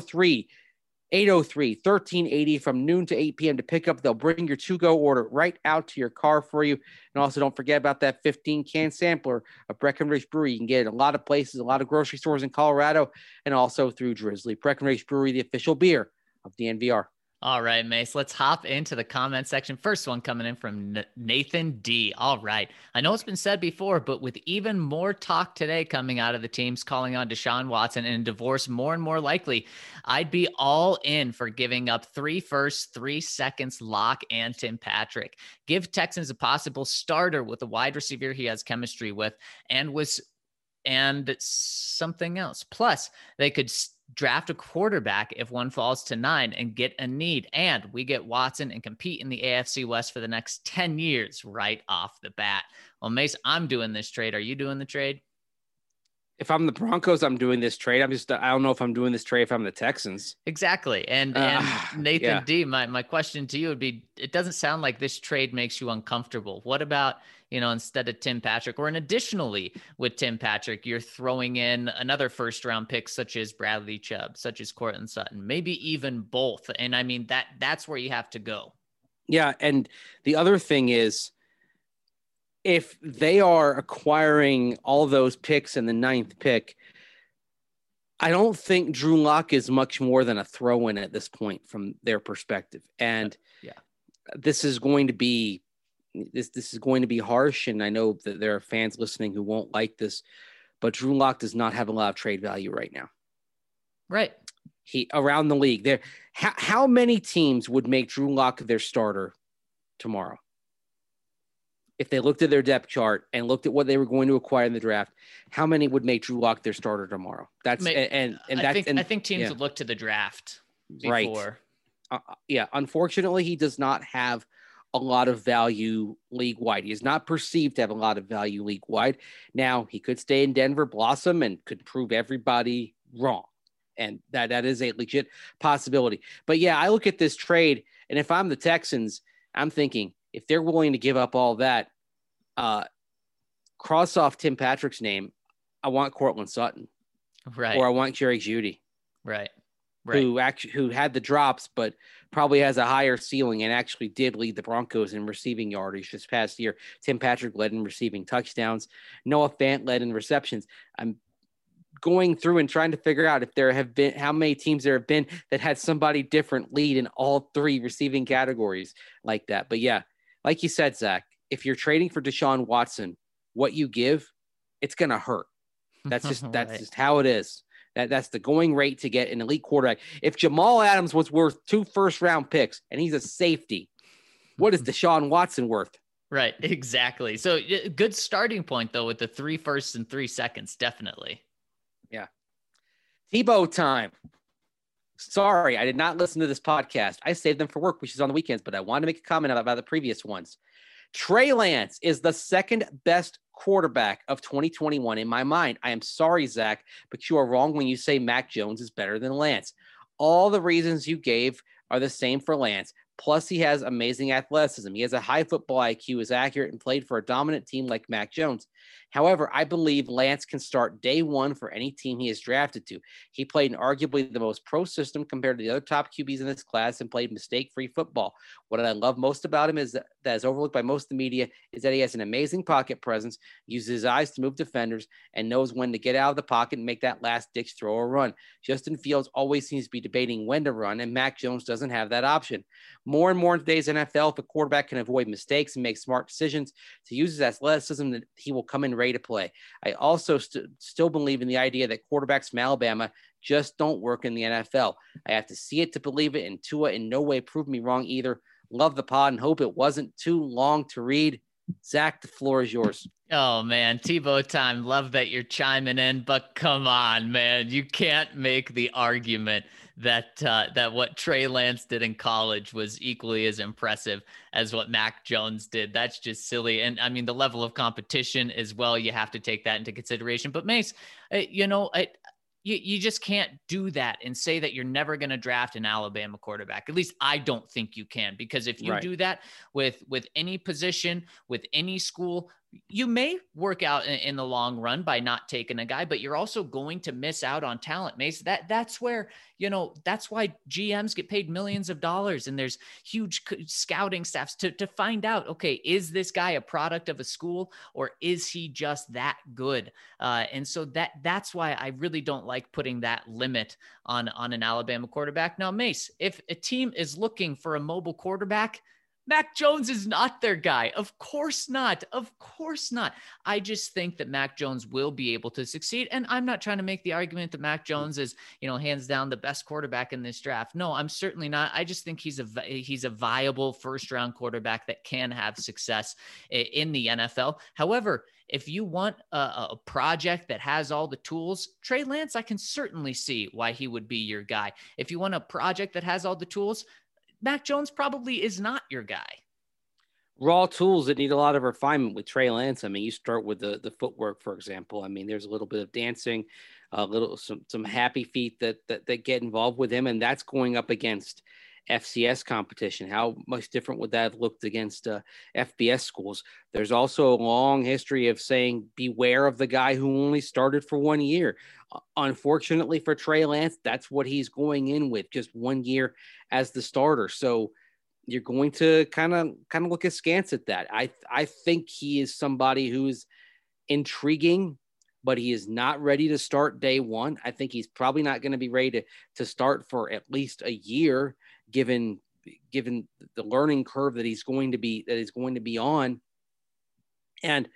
Speaker 3: 303-803-1380 from noon to 8 p.m. to pick up. They'll bring your to-go order right out to your car for you. And also don't forget about that 15-can sampler of Breckenridge Brewery. You can get it at a lot of places, a lot of grocery stores in Colorado, and also through Drizzly. Breckenridge Brewery, the official beer of DNVR.
Speaker 1: All right, Mace, let's hop into the comment section. First one coming in from Nathan D. All right. I know it's been said before, but with even more talk today coming out of the teams calling on Deshaun Watson and divorce more and more likely, I'd be all in for giving up 3 firsts, 3 seconds, Locke and Tim Patrick. Give Texans a possible starter with a wide receiver he has chemistry with and something else. Plus, they could draft a quarterback if one falls to 9 and get a need. And we get Watson and compete in the AFC West for the next 10 years right off the bat. Well, Mace, I'm doing this trade. Are you doing the trade?
Speaker 3: If I'm the Broncos, I'm doing this trade. I don't know if I'm doing this trade if I'm the Texans.
Speaker 1: Exactly. And Nathan D, my question to you would be, it doesn't sound like this trade makes you uncomfortable. What about, instead of Tim Patrick, or additionally with Tim Patrick, you're throwing in another first round pick, such as Bradley Chubb, such as Courtland Sutton, maybe even both. And I mean, that's where you have to go. Yeah.
Speaker 3: And the other thing is, if they are acquiring all those picks in the 9th pick, I don't think Drew Lock is much more than a throw-in at this point from their perspective. And this is going to be harsh. And I know that there are fans listening who won't like this, but Drew Lock does not have a lot of trade value right now.
Speaker 1: Right.
Speaker 3: He around the league there. How many teams would make Drew Lock their starter tomorrow? If they looked at their depth chart and looked at what they were going to acquire in the draft, how many would make Drew Lock their starter tomorrow? I think
Speaker 1: teams would look to the draft
Speaker 3: before. Right. Unfortunately, he does not have a lot of value league wide. He is not perceived to have a lot of value league wide. Now, he could stay in Denver, blossom, and could prove everybody wrong. And that is a legit possibility. But I look at this trade, and if I'm the Texans, I'm thinking, if they're willing to give up all that, cross off Tim Patrick's name, I want Courtland Sutton,
Speaker 1: right?
Speaker 3: Or I want Jerry Jeudy,
Speaker 1: right?
Speaker 3: Who had the drops, but probably has a higher ceiling and actually did lead the Broncos in receiving yardage this past year. Tim Patrick led in receiving touchdowns. Noah Fant led in receptions. I'm going through and trying to figure out if there have been how many teams there have been that had somebody different lead in all 3 receiving categories like that. But like you said, Zach, if you're trading for Deshaun Watson, what you give it's going to hurt. That's
Speaker 1: Right.
Speaker 3: just how it is. That's the going rate to get an elite quarterback. If Jamal Adams was worth 2 first-round picks and he's a safety, what is Deshaun Watson worth?
Speaker 1: Right, exactly. So good starting point though with the 3 firsts and 3 seconds, definitely.
Speaker 3: Yeah. Tebow time. Sorry, I did not listen to this podcast. I saved them for work, which is on the weekends, but I wanted to make a comment about the previous ones. Trey Lance is the second best quarterback of 2021 in my mind. I am sorry, Zach, but you are wrong when you say Mac Jones is better than Lance. All the reasons you gave are the same for Lance. Plus, he has amazing athleticism. He has a high football IQ, is accurate, and played for a dominant team like Mac Jones. However, I believe Lance can start day one for any team he is drafted to. He played in arguably the most pro system compared to the other top QBs in this class and played mistake-free football. What I love most about him is that is overlooked by most of the media is that he has an amazing pocket presence, uses his eyes to move defenders, and knows when to get out of the pocket and make that last-ditch throw or run. Justin Fields always seems to be debating when to run, and Mac Jones doesn't have that option. More and more in today's NFL, if a quarterback can avoid mistakes and make smart decisions to use his athleticism, that he will come in ready to play. I also still believe in the idea that quarterbacks from Alabama just don't work in the NFL. I have to see it to believe it, and Tua in no way proved me wrong either. Love the pod and hope it wasn't too long to read. Zach, the floor is yours.
Speaker 1: Oh man, Tebow time. Love that you're chiming in, but come on, man, you can't make the argument that that what Trey Lance did in college was equally as impressive as what Mac Jones did. That's just silly. And I mean, the level of competition as well, you have to take that into consideration. But Mace, you just can't do that and say that you're never going to draft an Alabama quarterback. At least I don't think you can, because if you do that with any position, with any school, you may work out in the long run by not taking a guy, but you're also going to miss out on talent, Mace. That's where, that's why GMs get paid millions of dollars and there's huge scouting staffs to find out, okay, is this guy a product of a school or is he just that good? And so that's why I really don't like putting that limit on an Alabama quarterback. Now, Mace, if a team is looking for a mobile quarterback, Mac Jones is not their guy. Of course not. Of course not. I just think that Mac Jones will be able to succeed. And I'm not trying to make the argument that Mac Jones is, hands down the best quarterback in this draft. No, I'm certainly not. I just think he's a viable first-round quarterback that can have success in the NFL. However, if you want a project that has all the tools, Trey Lance, I can certainly see why he would be your guy. If you want a project that has all the tools, Mac Jones probably is not your guy.
Speaker 3: Raw tools that need a lot of refinement with Trey Lance. I mean, you start with the footwork, for example. I mean, there's a little bit of dancing, some happy feet that get involved with him, and that's going up against FCS competition. How much different would that have looked against FBS schools? There's also a long history of saying beware of the guy who only started for 1 year. Unfortunately for Trey Lance, that's what he's going in with, just 1 year as the starter. So you're going to kind of look askance at that. I think he is somebody who's intriguing, but he is not ready to start day one. I think he's probably not going to be ready to start for at least a year, given the learning curve that he's going to be on. And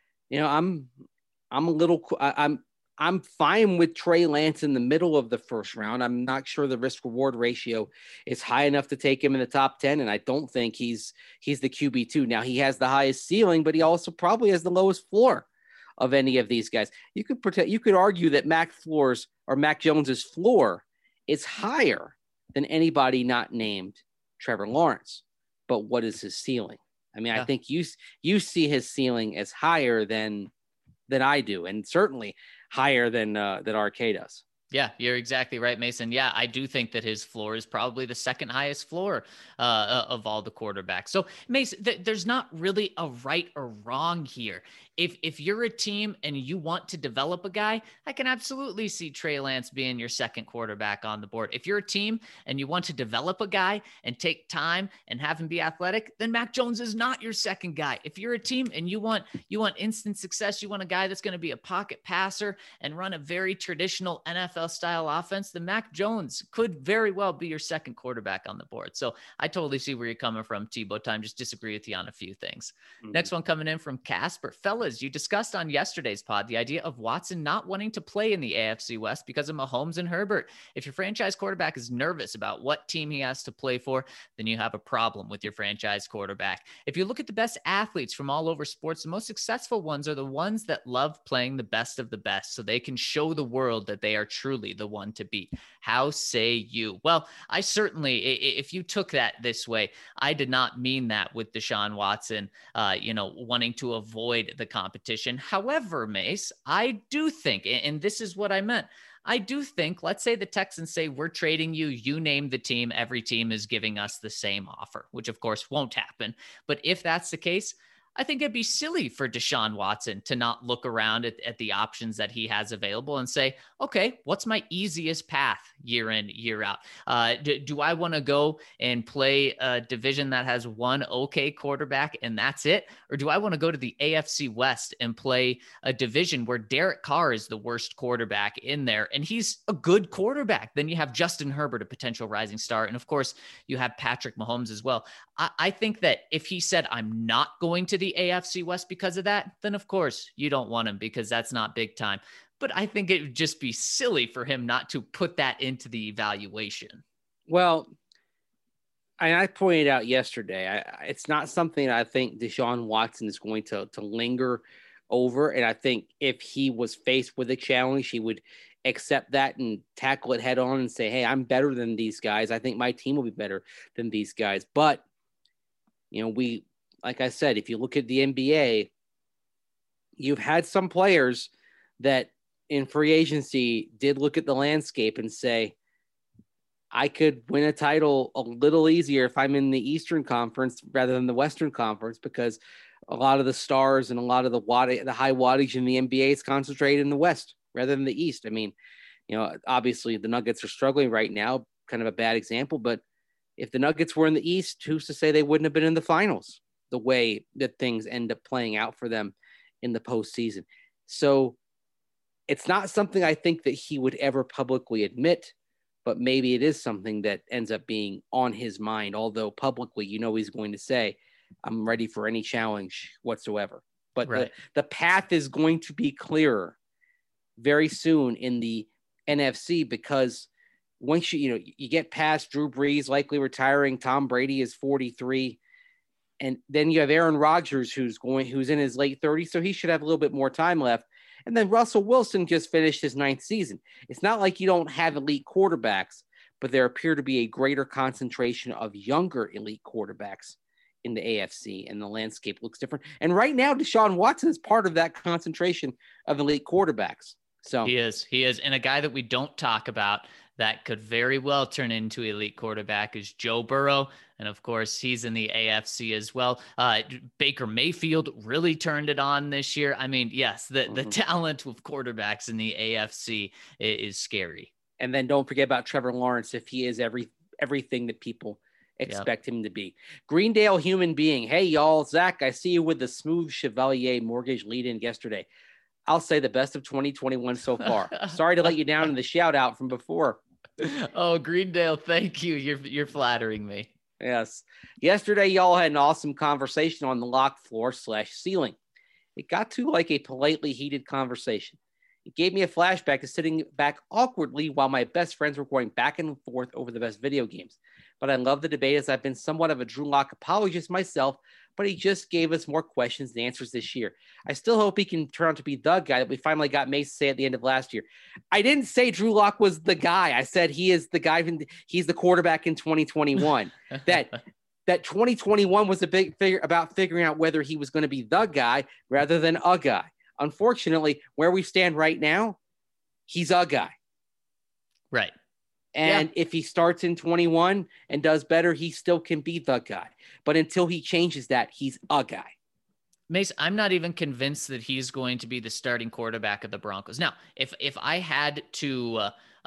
Speaker 3: I'm fine with Trey Lance in the middle of the first round. I'm not sure the risk reward ratio is high enough to take him in the top 10. And I don't think he's the QB2. Now he has the highest ceiling, but he also probably has the lowest floor of any of these guys. You could argue that Mac Jones's floor is higher than anybody not named Trevor Lawrence. But what is his ceiling? I mean, I think you see his ceiling as higher than I do, and certainly higher than RK does.
Speaker 1: Yeah, you're exactly right, Mason. Yeah, I do think that his floor is probably the second highest floor of all the quarterbacks. So, Mason, there's not really a right or wrong here. If you're a team and you want to develop a guy, I can absolutely see Trey Lance being your second quarterback on the board. If you're a team and you want to develop a guy and take time and have him be athletic, then Mac Jones is not your second guy. If you're a team and you want instant success, you want a guy that's going to be a pocket passer and run a very traditional NFL style offense, then Mac Jones could very well be your second quarterback on the board. So I totally see where you're coming from, Tebow time. Just disagree with you on a few things. Mm-hmm. Next one coming in from Casper. Fellas, fellas, you discussed on yesterday's pod the idea of Watson not wanting to play in the AFC West because of Mahomes and Herbert. If your franchise quarterback is nervous about what team he has to play for, then you have a problem with your franchise quarterback. If you look at the best athletes from all over sports, the most successful ones are the ones that love playing the best of the best so they can show the world that they are truly the one to beat. How say you? Well, I certainly, if you took that this way, I did not mean that with Deshaun Watson, wanting to avoid the competition. However, Mace, I do think, and this is what I meant, I do think, let's say the Texans say, we're trading you, you name the team, every team is giving us the same offer, which of course won't happen. But if that's the case, I think it'd be silly for Deshaun Watson to not look around at the options that he has available and say, okay, what's my easiest path year in, year out? Do I want to go and play a division that has one okay quarterback and that's it? Or do I want to go to the AFC West and play a division where Derek Carr is the worst quarterback in there and he's a good quarterback? Then you have Justin Herbert, a potential rising star. And of course, you have Patrick Mahomes as well. I think that if he said, I'm not going to the AFC West because of that, then of course you don't want him because that's not big time. But I think it would just be silly for him not to put that into the evaluation.
Speaker 3: Well, I pointed out yesterday, it's not something I think Deshaun Watson is going to linger over. And I think if he was faced with a challenge, he would accept that and tackle it head on and say, hey, I'm better than these guys. I think my team will be better than these guys. But, like I said, if you look at the NBA, you've had some players that in free agency did look at the landscape and say, I could win a title a little easier if I'm in the Eastern Conference rather than the Western Conference, because a lot of the stars and a lot of the high wattage in the NBA is concentrated in the West rather than the East. I mean, obviously the Nuggets are struggling right now, kind of a bad example, but if the Nuggets were in the East, who's to say they wouldn't have been in the finals the way that things end up playing out for them in the postseason? So it's not something I think that he would ever publicly admit, but maybe it is something that ends up being on his mind, although publicly, he's going to say, I'm ready for any challenge whatsoever. But right. the path is going to be clearer very soon in the NFC, because once you get past Drew Brees likely retiring, Tom Brady is 43, and then you have Aaron Rodgers who's in his late 30s, so he should have a little bit more time left. And then Russell Wilson just finished his 9th season. It's not like you don't have elite quarterbacks, but there appear to be a greater concentration of younger elite quarterbacks in the AFC, and the landscape looks different. And right now, Deshaun Watson is part of that concentration of elite quarterbacks. So
Speaker 1: he is. And a guy that we don't talk about that could very well turn into elite quarterback is Joe Burrow. And of course, he's in the AFC as well. Baker Mayfield really turned it on this year. I mean, yes, the talent of quarterbacks in the AFC is scary.
Speaker 3: And then don't forget about Trevor Lawrence, if he is everything that people expect him to be. Greendale human being. Hey, y'all. Zach, I see you with the Smooth Chevalier mortgage lead-in yesterday. I'll say the best of 2021 so far. Sorry to let you down in the shout out from before.
Speaker 1: Oh, Greendale, thank you. You're flattering me.
Speaker 3: Yes. Yesterday, y'all had an awesome conversation on the locked floor / ceiling. It got to like a politely heated conversation. It gave me a flashback to sitting back awkwardly while my best friends were going back and forth over the best video games. But I love the debate, as I've been somewhat of a Drew Lock apologist myself, but he just gave us more questions than answers this year. I still hope he can turn out to be the guy that we finally got Mace to say at the end of last year. I didn't say Drew Lock was the guy. I said he is the guy. He's the quarterback in 2021. that 2021 was a big figure about figuring out whether he was going to be the guy rather than a guy. Unfortunately, where we stand right now, he's a guy.
Speaker 1: Right.
Speaker 3: And if he starts in 21 and does better, he still can be the guy. But until he changes that, he's a guy.
Speaker 1: Mace, I'm not even convinced that he's going to be the starting quarterback of the Broncos. Now, if I had to,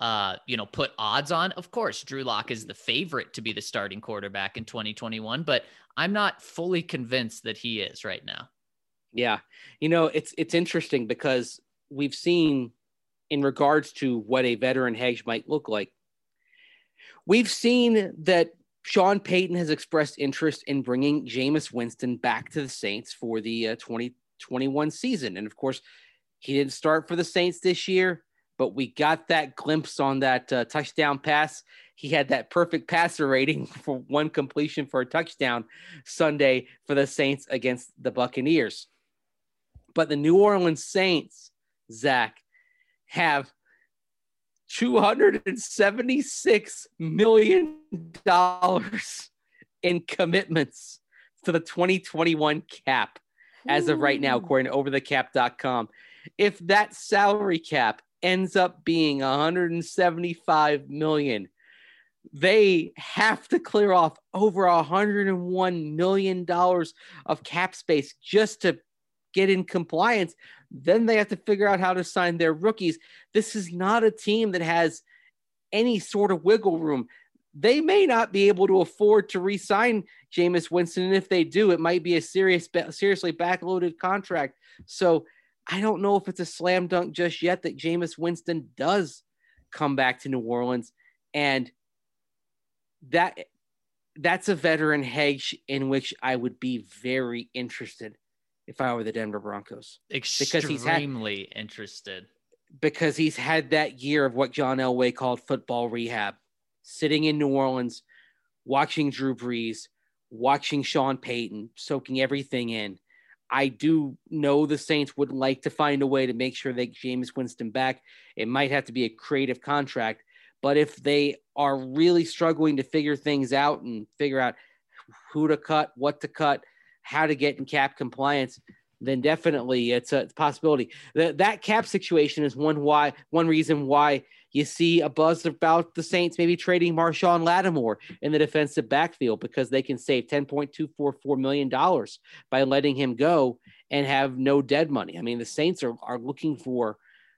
Speaker 1: put odds on, of course, Drew Lock is the favorite to be the starting quarterback in 2021, but I'm not fully convinced that he is right now.
Speaker 3: Yeah. It's interesting because we've seen, in regards to what a veteran hedge might look like, we've seen that Sean Payton has expressed interest in bringing Jameis Winston back to the Saints for the 2021 season. And of course, he didn't start for the Saints this year, but we got that glimpse on that touchdown pass. He had that perfect passer rating for one completion for a touchdown Sunday for the Saints against the Buccaneers. But the New Orleans Saints, Zach, have $276 million in commitments to the 2021 cap as of right now, according to overthecap.com. If that salary cap ends up being $175 million, they have to clear off over $101 million of cap space just to get in compliance. Then they have to figure out how to sign their rookies. This is not a team that has any sort of wiggle room. They may not be able to afford to re-sign Jameis Winston. And if they do, it might be a seriously backloaded contract. So I don't know if it's a slam dunk just yet that Jameis Winston does come back to New Orleans. And that's a veteran hedge in which I would be very interested if I were the Denver Broncos.
Speaker 1: Extremely interested.
Speaker 3: Because he's had that year of what John Elway called football rehab, sitting in New Orleans, watching Drew Brees, watching Sean Payton, soaking everything in. I do know the Saints would like to find a way to make sure they get Jameis Winston back. It might have to be a creative contract, but if they are really struggling to figure things out and figure out who to cut, what to cut, how to get in cap compliance, then definitely it's a possibility. That cap situation is one reason why you see a buzz about the Saints maybe trading Marshawn Lattimore in the defensive backfield, because they can save $10.244 million by letting him go and have no dead money. I mean, the Saints are looking for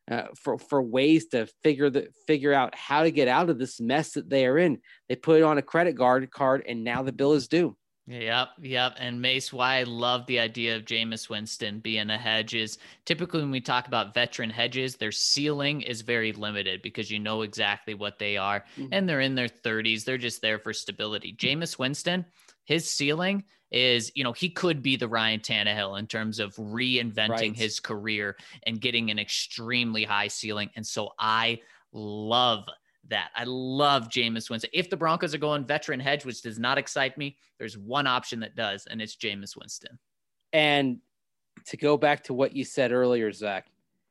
Speaker 3: ways to figure out how to get out of this mess that they are in. They put it on a credit card, and now the bill is due.
Speaker 1: Yep. And Mace, why I love the idea of Jameis Winston being a hedge is typically when we talk about veteran hedges, their ceiling is very limited because you know exactly what they are, and they're in their 30s. They're just there for stability. Jameis Winston, his ceiling is, he could be the Ryan Tannehill in terms of reinventing his career and getting an extremely high ceiling. And so I love that. I love Jameis Winston. If the Broncos are going veteran hedge, which does not excite me, there's one option that does, and it's Jameis Winston.
Speaker 3: And to go back to what you said earlier, Zach,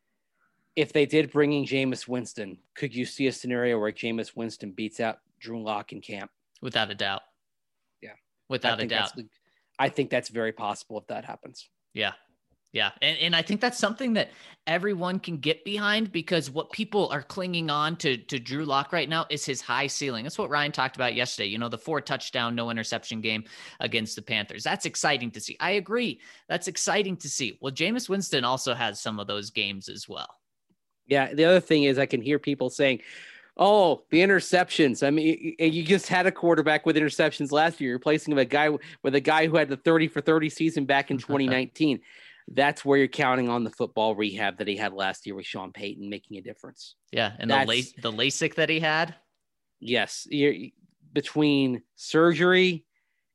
Speaker 3: if they did bring in Jameis Winston, could you see a scenario where Jameis Winston beats out Drew Lock in camp?
Speaker 1: Without a doubt.
Speaker 3: Yeah.
Speaker 1: Without a doubt.
Speaker 3: I think that's very possible if that happens.
Speaker 1: Yeah. And I think that's something that everyone can get behind, because what people are clinging on to Drew Lock right now is his high ceiling. That's what Ryan talked about yesterday. The 4 touchdown, no interception game against the Panthers. That's exciting to see. I agree. That's exciting to see. Well, Jameis Winston also has some of those games as well. Yeah.
Speaker 3: The other thing is I can hear people saying, oh, the interceptions. I mean, you just had a quarterback with interceptions last year, replacing a guy who had the 30 for 30 season back in 2019. That's where you're counting on the football rehab that he had last year with Sean Payton making a difference.
Speaker 1: Yeah, and the LASIK that he had.
Speaker 3: Yes, between surgery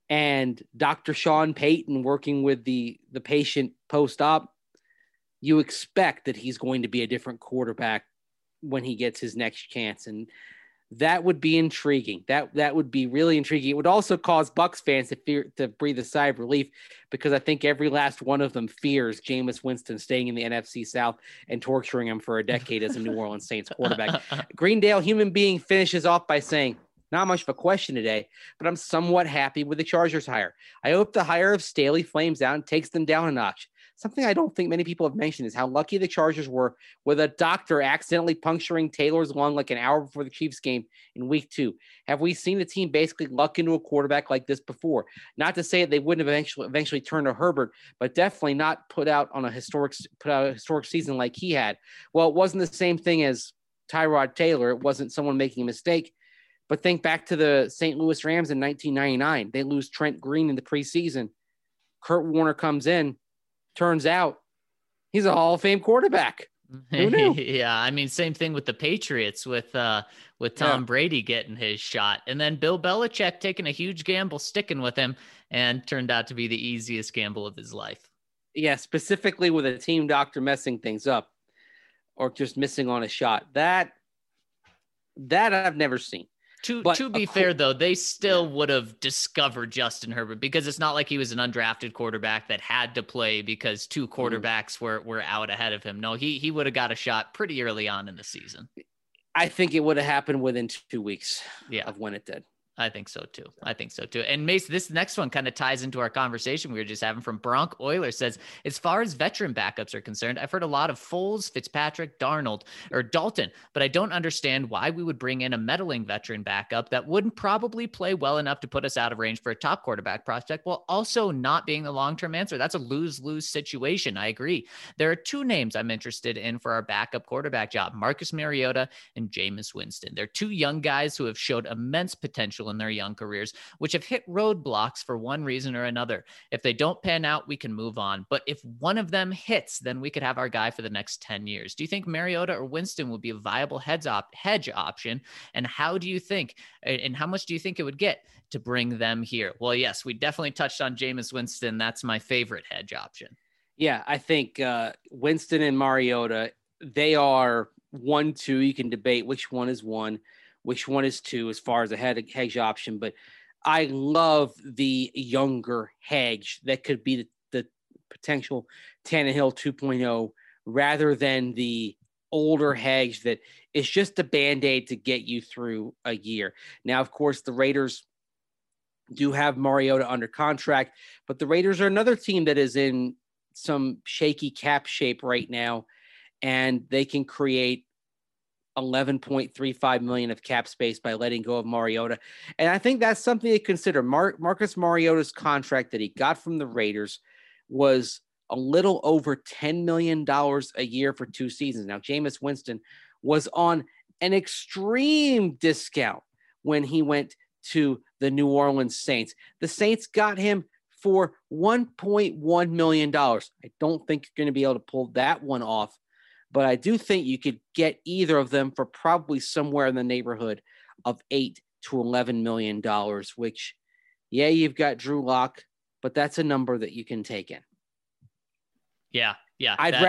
Speaker 3: and Dr. Sean Payton working with the patient post-op, you expect that he's going to be a different quarterback when he gets his next chance. And that would be intriguing. That would be really intriguing. It would also cause Bucs fans to breathe a sigh of relief, because I think every last one of them fears Jameis Winston staying in the NFC South and torturing him for a decade as a New Orleans Saints quarterback. Greendale Human Being finishes off by saying, not much of a question today, but I'm somewhat happy with the Chargers hire. I hope the hire of Staley flames out and takes them down a notch. Something I don't think many people have mentioned is how lucky the Chargers were with a doctor accidentally puncturing Taylor's lung like an hour before the Chiefs game in week 2. Have we seen the team basically luck into a quarterback like this before? Not to say that they wouldn't have eventually turned to Herbert, but definitely not put out a historic season like he had. Well, it wasn't the same thing as Tyrod Taylor. It wasn't someone making a mistake. But think back to the St. Louis Rams in 1999. They lose Trent Green in the preseason. Kurt Warner comes in. Turns out he's a Hall of Fame quarterback. Who knew?
Speaker 1: Yeah, I mean, same thing with the Patriots with Tom Brady getting his shot, and then Bill Belichick taking a huge gamble, sticking with him, and turned out to be the easiest gamble of his life.
Speaker 3: Yeah, specifically with a team doctor messing things up or just missing on a shot. That I've never seen.
Speaker 1: To be fair, though, they still would have discovered Justin Herbert because it's not like he was an undrafted quarterback that had to play because two quarterbacks were out ahead of him. No, he would have got a shot pretty early on in the season.
Speaker 3: I think it would have happened within 2 weeks of when it did.
Speaker 1: I think so too. And Mace, this next one kind of ties into our conversation we were just having from Bronk Euler. Says, as far as veteran backups are concerned, I've heard a lot of Foles, Fitzpatrick, Darnold, or Dalton, but I don't understand why we would bring in a meddling veteran backup that wouldn't probably play well enough to put us out of range for a top quarterback prospect while also not being the long-term answer. That's a lose-lose situation. I agree. There are two names I'm interested in for our backup quarterback job, Marcus Mariota and Jameis Winston. They're two young guys who have showed immense potential in their young careers, which have hit roadblocks for one reason or another. If they don't pan out, we can move on. But if one of them hits, then we could have our guy for the next 10 years. Do you think Mariota or Winston would be a viable hedge option? And how do you think, and how much do you think it would get to bring them here? Well, yes, we definitely touched on Jameis Winston. That's my favorite hedge option.
Speaker 3: Yeah, I think Winston and Mariota, they are 1-2. You can debate which one is one, which one is two as far as a hedge option. But I love the younger hedge that could be the potential Tannehill 2.0 rather than the older hedge that is just a Band-Aid to get you through a year. Now, of course, the Raiders do have Mariota under contract, but the Raiders are another team that is in some shaky cap shape right now, and they can create $11.35 million of cap space by letting go of Mariota. And I think that's something to consider. Marcus Mariota's contract that he got from the Raiders was a little over $10 million a year for 2 seasons. Now, Jameis Winston was on an extreme discount when he went to the New Orleans Saints. The Saints got him for $1.1 million. I don't think you're going to be able to pull that one off, but I do think you could get either of them for probably somewhere in the neighborhood of $8 to $11 million, which, yeah, you've got Drew Lock, but that's a number that you can take in.
Speaker 1: Yeah.
Speaker 3: I'd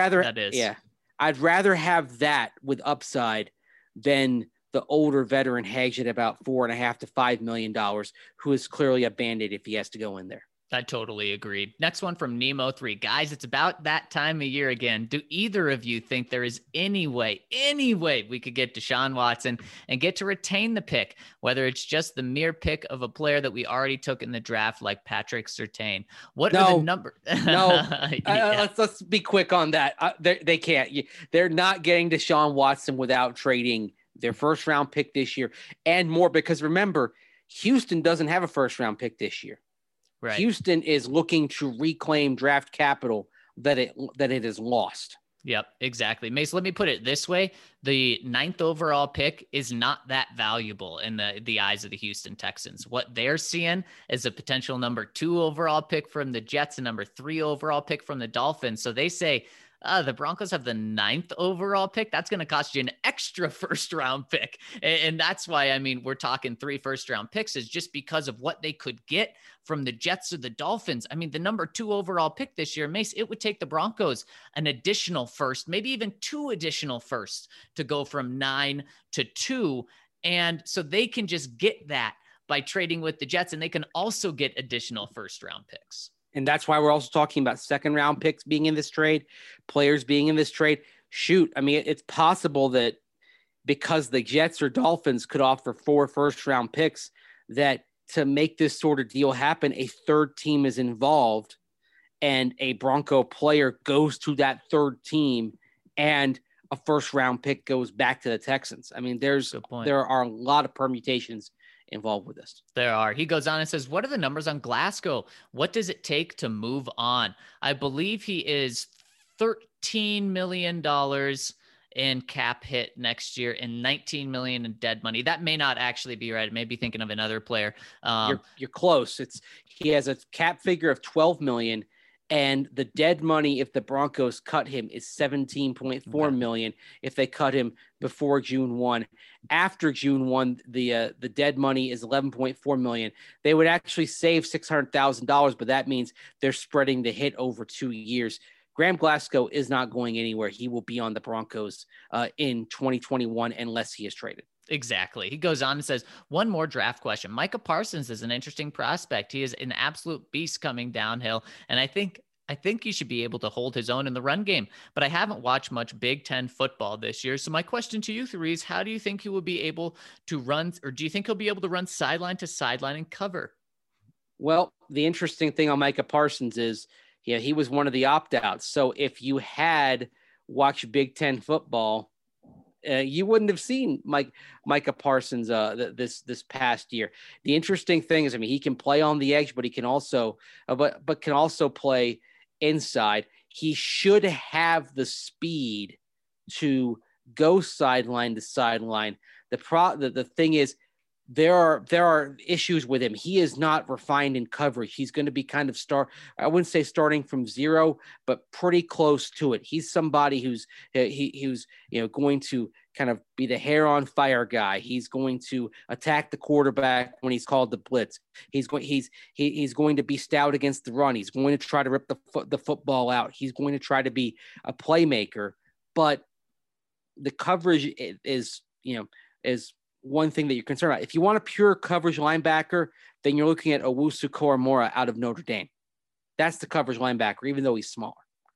Speaker 3: rather have that with upside than the older veteran hedge at about $4.5 to $5 million, who is clearly a Band-Aid if he has to go in there.
Speaker 1: I totally agree. Next one from Nemo3. Guys, it's about that time of year again. Do either of you think there is any way we could get Deshaun Watson and get to retain the pick, whether it's just the mere pick of a player that we already took in the draft like Patrick Surtain? What are the numbers?
Speaker 3: No. Let's be quick on that. They can't. They're not getting Deshaun Watson without trading their first round pick this year and more, because remember, Houston doesn't have a first round pick this year. Right. Houston is looking to reclaim draft capital that it has lost.
Speaker 1: Yep, exactly. Mace, let me put it this way. The 9th overall pick is not that valuable in the eyes of the Houston Texans. What they're seeing is a potential number 2 overall pick from the Jets and number 3 overall pick from the Dolphins. So they say, the Broncos have the 9th overall pick. That's going to cost you an extra first round pick. And that's why, we're talking 3 first round picks is just because of what they could get from the Jets or the Dolphins. The number 2 overall pick this year, Mace, it would take the Broncos an additional first, maybe even 2 additional firsts to go from 9 to 2. And so they can just get that by trading with the Jets, and they can also get additional first round picks.
Speaker 3: And that's why we're also talking about second round picks being in this trade, players being in this trade. Shoot, it's possible that because the Jets or Dolphins could offer 4 first round picks, that to make this sort of deal happen, a third team is involved and a Bronco player goes to that third team and a first round pick goes back to the Texans. There are a lot of permutations involved with this.
Speaker 1: There are. He goes on and says, what are the numbers on Glasgow? What does it take to move on? I believe he is $13 million in cap hit next year and $19 million in dead money. That may not actually be right. I may be thinking of another player.
Speaker 3: You're close. He has a cap figure of $12 million And the dead money, if the Broncos cut him, is $17.4 million if they cut him before June 1. After June 1, the dead money is $11.4 million. They would actually save $600,000, but that means they're spreading the hit over 2 years. Graham Glasgow is not going anywhere. He will be on the Broncos in 2021 unless he is traded.
Speaker 1: Exactly. He goes on and says, one more draft question. Micah Parsons is an interesting prospect. He is an absolute beast coming downhill. And I think he should be able to hold his own in the run game, but I haven't watched much Big Ten football this year. So my question to you three is, how do you think he will be able to run, or do you think he'll be able to run sideline to sideline and cover?
Speaker 3: Well, the interesting thing on Micah Parsons is, he was one of the opt-outs. So if you had watched Big Ten football, you wouldn't have seen Micah Parsons this past year. The interesting thing is, he can play on the edge, but he can also but can also play inside. He should have the speed to go sideline to sideline. The thing is, there are issues with him. He is not refined in coverage. He's going to be kind of I wouldn't say starting from zero, but pretty close to it. He's somebody who's going to kind of be the hair on fire guy. He's going to attack the quarterback when he's called the blitz. He's going to be stout against the run. He's going to try to rip the football out. He's going to try to be a playmaker, but the coverage is one thing that you're concerned about. If you want a pure coverage linebacker, then you're looking at Owusu Koromora out of Notre Dame. That's the coverage linebacker, even though he's smaller.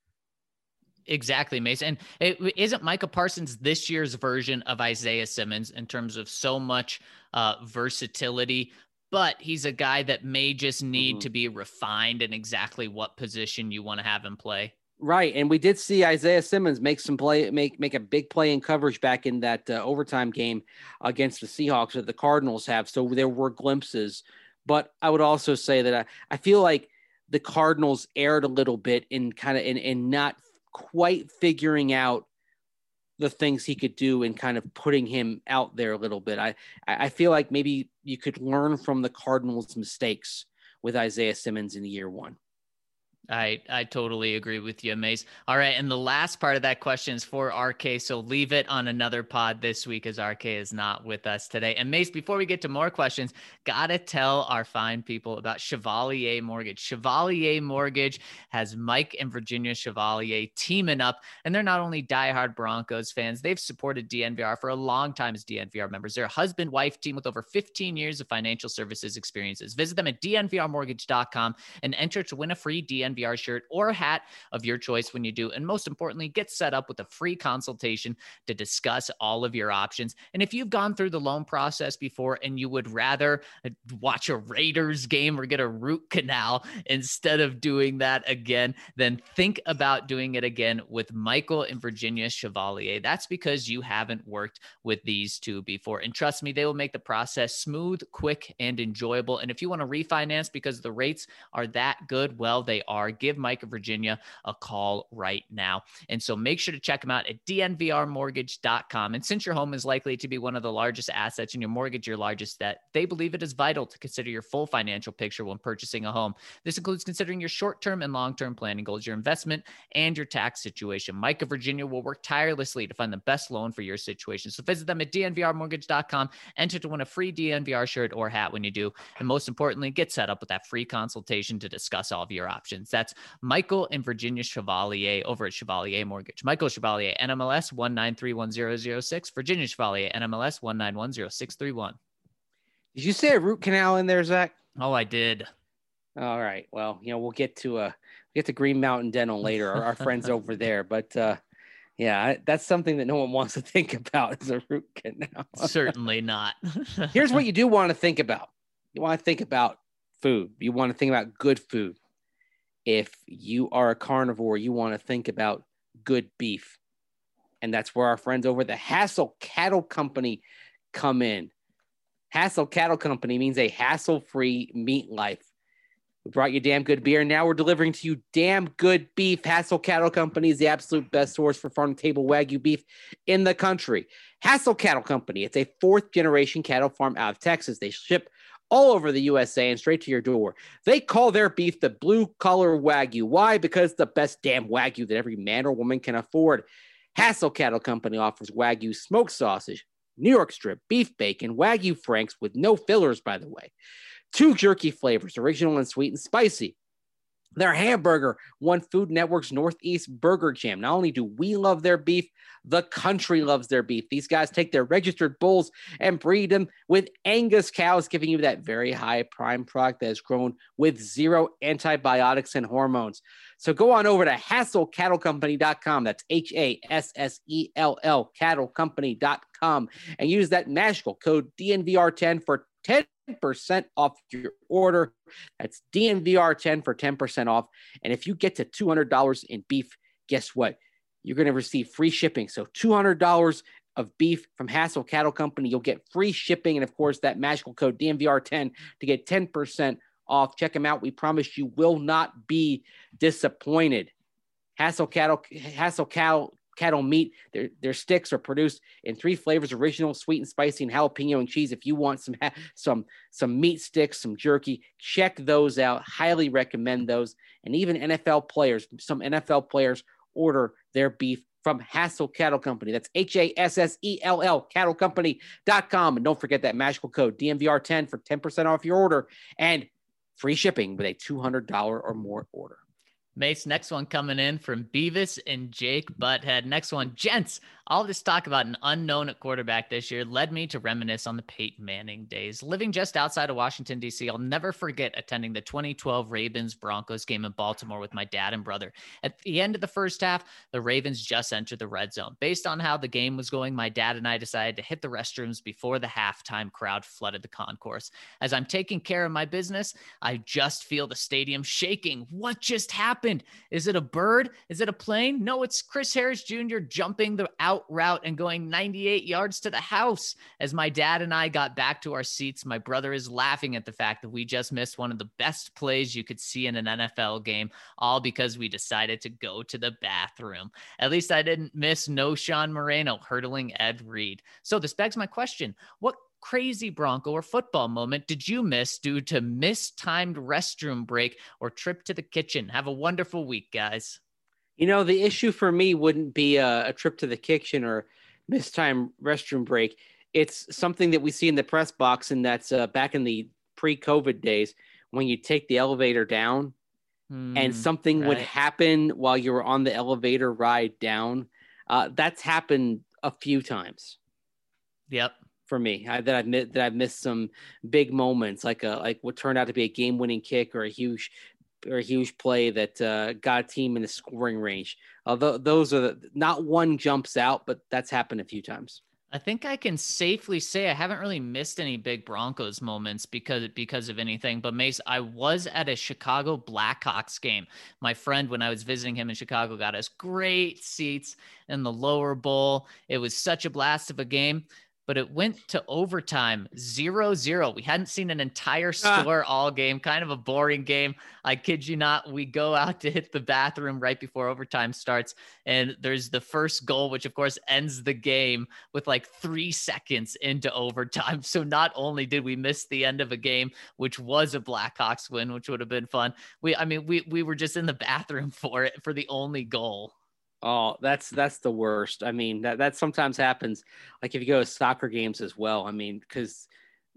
Speaker 1: Exactly, Mason. And isn't Micah Parsons this year's version of Isaiah Simmons in terms of so much versatility, but he's a guy that may just need to be refined in exactly what position you want to have him play.
Speaker 3: Right. And we did see Isaiah Simmons make a big play in coverage back in that overtime game against the Seahawks that the Cardinals have. So there were glimpses, but I would also say that I feel like the Cardinals erred a little bit in not quite figuring out the things he could do and kind of putting him out there a little bit. I feel like maybe you could learn from the Cardinals' mistakes with Isaiah Simmons in year one.
Speaker 1: I totally agree with you, Mace. All right. And the last part of that question is for RK. So leave it on another pod this week as RK is not with us today. And Mace, before we get to more questions, got to tell our fine people about Chevalier Mortgage. Chevalier Mortgage has Mike and Virginia Chevalier teaming up. And they're not only diehard Broncos fans, they've supported DNVR for a long time as DNVR members. They're a husband-wife team with over 15 years of financial services experiences. Visit them at dnvrmortgage.com and enter to win a free DNVR shirt or hat of your choice when you do. And most importantly, get set up with a free consultation to discuss all of your options. And if you've gone through the loan process before and you would rather watch a Raiders game or get a root canal instead of doing that again, then think about doing it again with Michael and Virginia Chevalier. That's because you haven't worked with these two before. And trust me, they will make the process smooth, quick, and enjoyable. And if you want to refinance because the rates are that good, well, they are. Give Mike of Virginia a call right now. And so make sure to check them out at dnvrmortgage.com. And since your home is likely to be one of the largest assets in your mortgage, your largest debt, they believe it is vital to consider your full financial picture when purchasing a home. This includes considering your short-term and long-term planning goals, your investment, and your tax situation. Mike of Virginia will work tirelessly to find the best loan for your situation. So visit them at dnvrmortgage.com, enter to win a free DNVR shirt or hat when you do. And most importantly, get set up with that free consultation to discuss all of your options. That's Michael and Virginia Chevalier over at Chevalier Mortgage. Michael Chevalier, NMLS 1931006. Virginia Chevalier, NMLS 1910631.
Speaker 3: Did you say a root canal in there, Zach?
Speaker 1: Oh, I did.
Speaker 3: All right. Well, we'll get to Green Mountain Dental later, our friends over there. But yeah, that's something that no one wants to think about is a root canal.
Speaker 1: Certainly not.
Speaker 3: Here's what you do want to think about. You want to think about food. You want to think about good food. If you are a carnivore, you want to think about good beef. And that's where our friends over at the Hassel Cattle Company come in. Hassel Cattle Company means a hassle-free meat life. We brought you damn good beer, and now we're delivering to you damn good beef. Hassel Cattle Company is the absolute best source for farm-to-table Wagyu beef in the country. Hassel Cattle Company, it's a fourth-generation cattle farm out of Texas. They ship all over the USA and straight to your door. They call their beef the blue collar Wagyu. Why? Because it's the best damn Wagyu that every man or woman can afford. Hassel Cattle Company offers Wagyu smoked sausage, New York strip, beef bacon, Wagyu Franks with no fillers, by the way. 2 jerky flavors, original and sweet and spicy. Their hamburger won Food Network's Northeast Burger Jam. Not only do we love their beef, the country loves their beef. These guys take their registered bulls and breed them with Angus cows, giving you that very high prime product that is grown with 0 antibiotics and hormones. So go on over to HassellCattleCompany.com. That's HASSELL cattlecompany.com and use that magical code DNVR10 for 10% off your order. That's DNVR10 for 10% off. And if you get to $200 in beef, guess what? You're going to receive free shipping. So $200 of beef from Hassell Cattle Company. You'll get free shipping. And of course, that magical code DNVR10 to get 10% off. Check them out. We promise you will not be disappointed. Hassell Cattle meat. Their sticks are produced in 3 flavors: original, sweet and spicy, and jalapeno and cheese. If you want some meat sticks, some jerky, check those out. Highly recommend those. And even some NFL players order their beef from Hassell Cattle Company. That's HASSELL cattlecompany.com. And don't forget that magical code DNVR10 for 10% off your order and free shipping with a $200 or more order.
Speaker 1: Mace, next one coming in from Beavis and Jake Butthead. Next one, gents, all this talk about an unknown at quarterback this year led me to reminisce on the Peyton Manning days. Living just outside of Washington, D.C., I'll never forget attending the 2012 Ravens-Broncos game in Baltimore with my dad and brother. At the end of the first half, the Ravens just entered the red zone. Based on how the game was going, my dad and I decided to hit the restrooms before the halftime crowd flooded the concourse. As I'm taking care of my business, I just feel the stadium shaking. What just happened? Is it a bird? Is it a plane? No, it's Chris Harris Jr. jumping the out route and going 98 yards to the house. As my dad and I got back to our seats, my brother is laughing at the fact that we just missed one of the best plays you could see in an NFL game, all because we decided to go to the bathroom. At least I didn't miss no Sean Moreno hurdling Ed Reed. So this begs my question. What crazy Bronco or football moment did you miss due to mistimed restroom break or trip to the kitchen? Have a wonderful week, guys.
Speaker 3: You know, the issue for me wouldn't be a trip to the kitchen or mistimed restroom break. It's something that we see in the press box, and that's back in the pre-COVID days when you take the elevator down and something would happen while you were on the elevator ride down. That's happened a few times.
Speaker 1: Yep.
Speaker 3: For me, that I've missed some big moments, like what turned out to be a game-winning kick or a huge play that got a team in the scoring range. Although those are not one jumps out, but that's happened a few times.
Speaker 1: I think I can safely say I haven't really missed any big Broncos moments because of anything. But Mace, I was at a Chicago Blackhawks game. My friend, when I was visiting him in Chicago, got us great seats in the lower bowl. It was such a blast of a game. But it went to overtime, 0-0. We hadn't seen an entire score all game, kind of a boring game. I kid you not. We go out to hit the bathroom right before overtime starts. And there's the first goal, which of course ends the game with like 3 seconds into overtime. So not only did we miss the end of a game, which was a Blackhawks win, which would have been fun. We were just in the bathroom for it, for the only goal.
Speaker 3: Oh, that's the worst. I mean, that sometimes happens. Like if you go to soccer games as well. I mean, because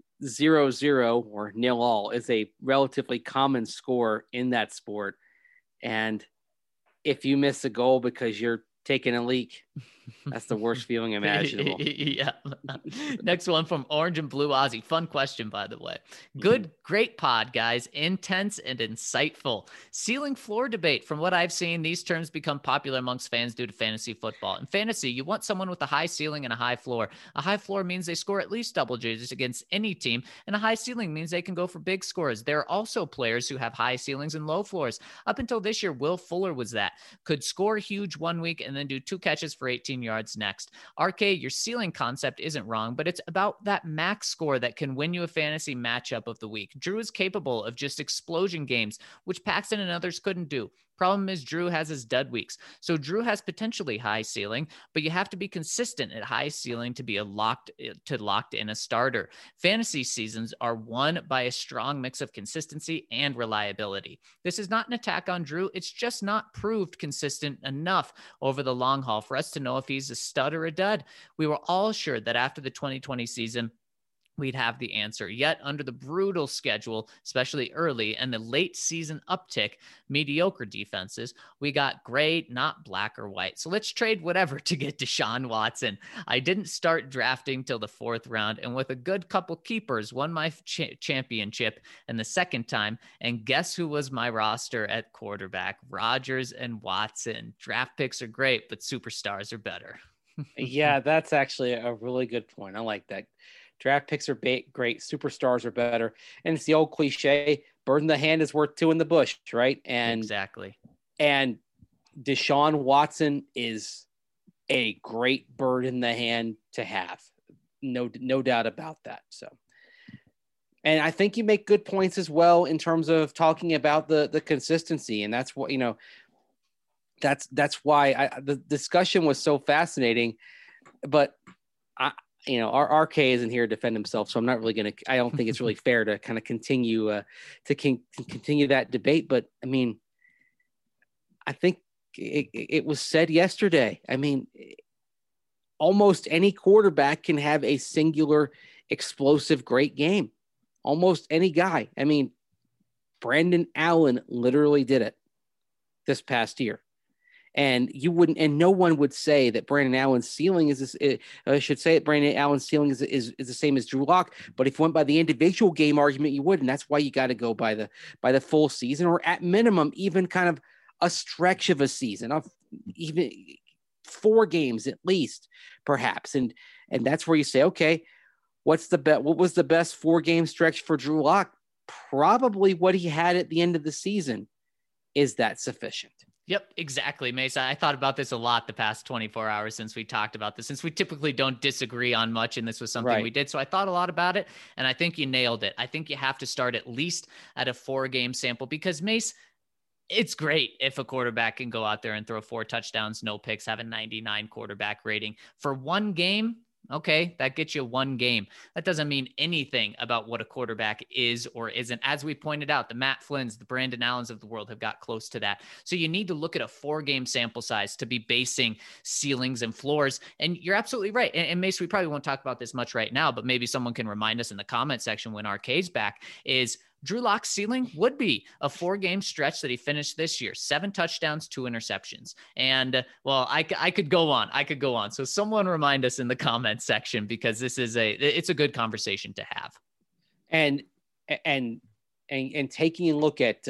Speaker 3: 0-0 or 0-0 is a relatively common score in that sport. And if you miss a goal because you're taking a leak, that's the worst feeling imaginable.
Speaker 1: Yeah. Next one from Orange and Blue Ozzy. Fun question, by the way. Great pod, guys. Intense and insightful. Ceiling floor debate. From what I've seen, these terms become popular amongst fans due to fantasy football. In fantasy, you want someone with a high ceiling and a high floor. A high floor means they score at least double digits against any team, and a high ceiling means they can go for big scores. There are also players who have high ceilings and low floors. Up until this year, Will Fuller was that. Could score huge one week and then do 2 catches for 18 yards next. RK, your ceiling concept isn't wrong, but it's about that max score that can win you a fantasy matchup of the week. Drew is capable of just explosion games, which Paxton and others couldn't do. Problem is Drew has his dud weeks. So Drew has potentially high ceiling, but you have to be consistent at high ceiling to be locked in a starter. Fantasy seasons are won by a strong mix of consistency and reliability. This is not an attack on Drew. It's just not proved consistent enough over the long haul for us to know if he's a stud or a dud. We were all sure that after the 2020 season, we'd have the answer. Yet under the brutal schedule, especially early, and the late season uptick, mediocre defenses, we got gray, not black or white. So let's trade whatever to get Deshaun Watson. I didn't start drafting till the 4th round, and with a good couple keepers, won my championship and the second time. And guess who was my roster at quarterback? Rodgers and Watson. Draft picks are great, but superstars are better.
Speaker 3: Yeah, that's actually a really good point. I like that. Draft picks are great. Superstars are better. And it's the old cliche, bird in the hand is worth 2 in the bush, right? And
Speaker 1: exactly.
Speaker 3: And Deshaun Watson is a great bird in the hand to have. No doubt about that. So, and I think you make good points as well in terms of talking about the consistency. And that's what, that's why the discussion was so fascinating, but our RK isn't here to defend himself, so I'm not really I don't think it's really fair to kind of continue continue that debate. But I mean, I think it was said yesterday. I mean, almost any quarterback can have a singular, explosive, great game. Almost any guy. I mean, Brandon Allen literally did it this past year. And no one would say that Brandon Allen's ceiling is Brandon Allen's ceiling is the same as Drew Lock. But if you went by the individual game argument, you would, and that's why you got to go by the full season, or at minimum, even kind of a stretch of a season of even 4 games at least, perhaps. And that's where you say, okay, what was the best 4-game stretch for Drew Lock? Probably what he had at the end of the season. Is that sufficient?
Speaker 1: Yep, exactly, Mesa. I thought about this a lot the past 24 hours since we talked about this, since we typically don't disagree on much, and this was something we did. So I thought a lot about it, and I think you nailed it. I think you have to start at least at a 4-game sample because, Mace, it's great if a quarterback can go out there and throw 4 touchdowns, no picks, have a 99 quarterback rating. For 1 game, okay, that gets you 1 game. That doesn't mean anything about what a quarterback is or isn't. As we pointed out, the Matt Flynn's, the Brandon Allens of the world have got close to that. So you need to look at a 4-game sample size to be basing ceilings and floors. And you're absolutely right. And Mace, we probably won't talk about this much right now, but maybe someone can remind us in the comment section when RK's back is Drew Lock's ceiling would be a 4-game stretch that he finished this year, 7 touchdowns, 2 interceptions. And well, I could go on. So someone remind us in the comments section, because it's a good conversation to have. And
Speaker 3: taking a look at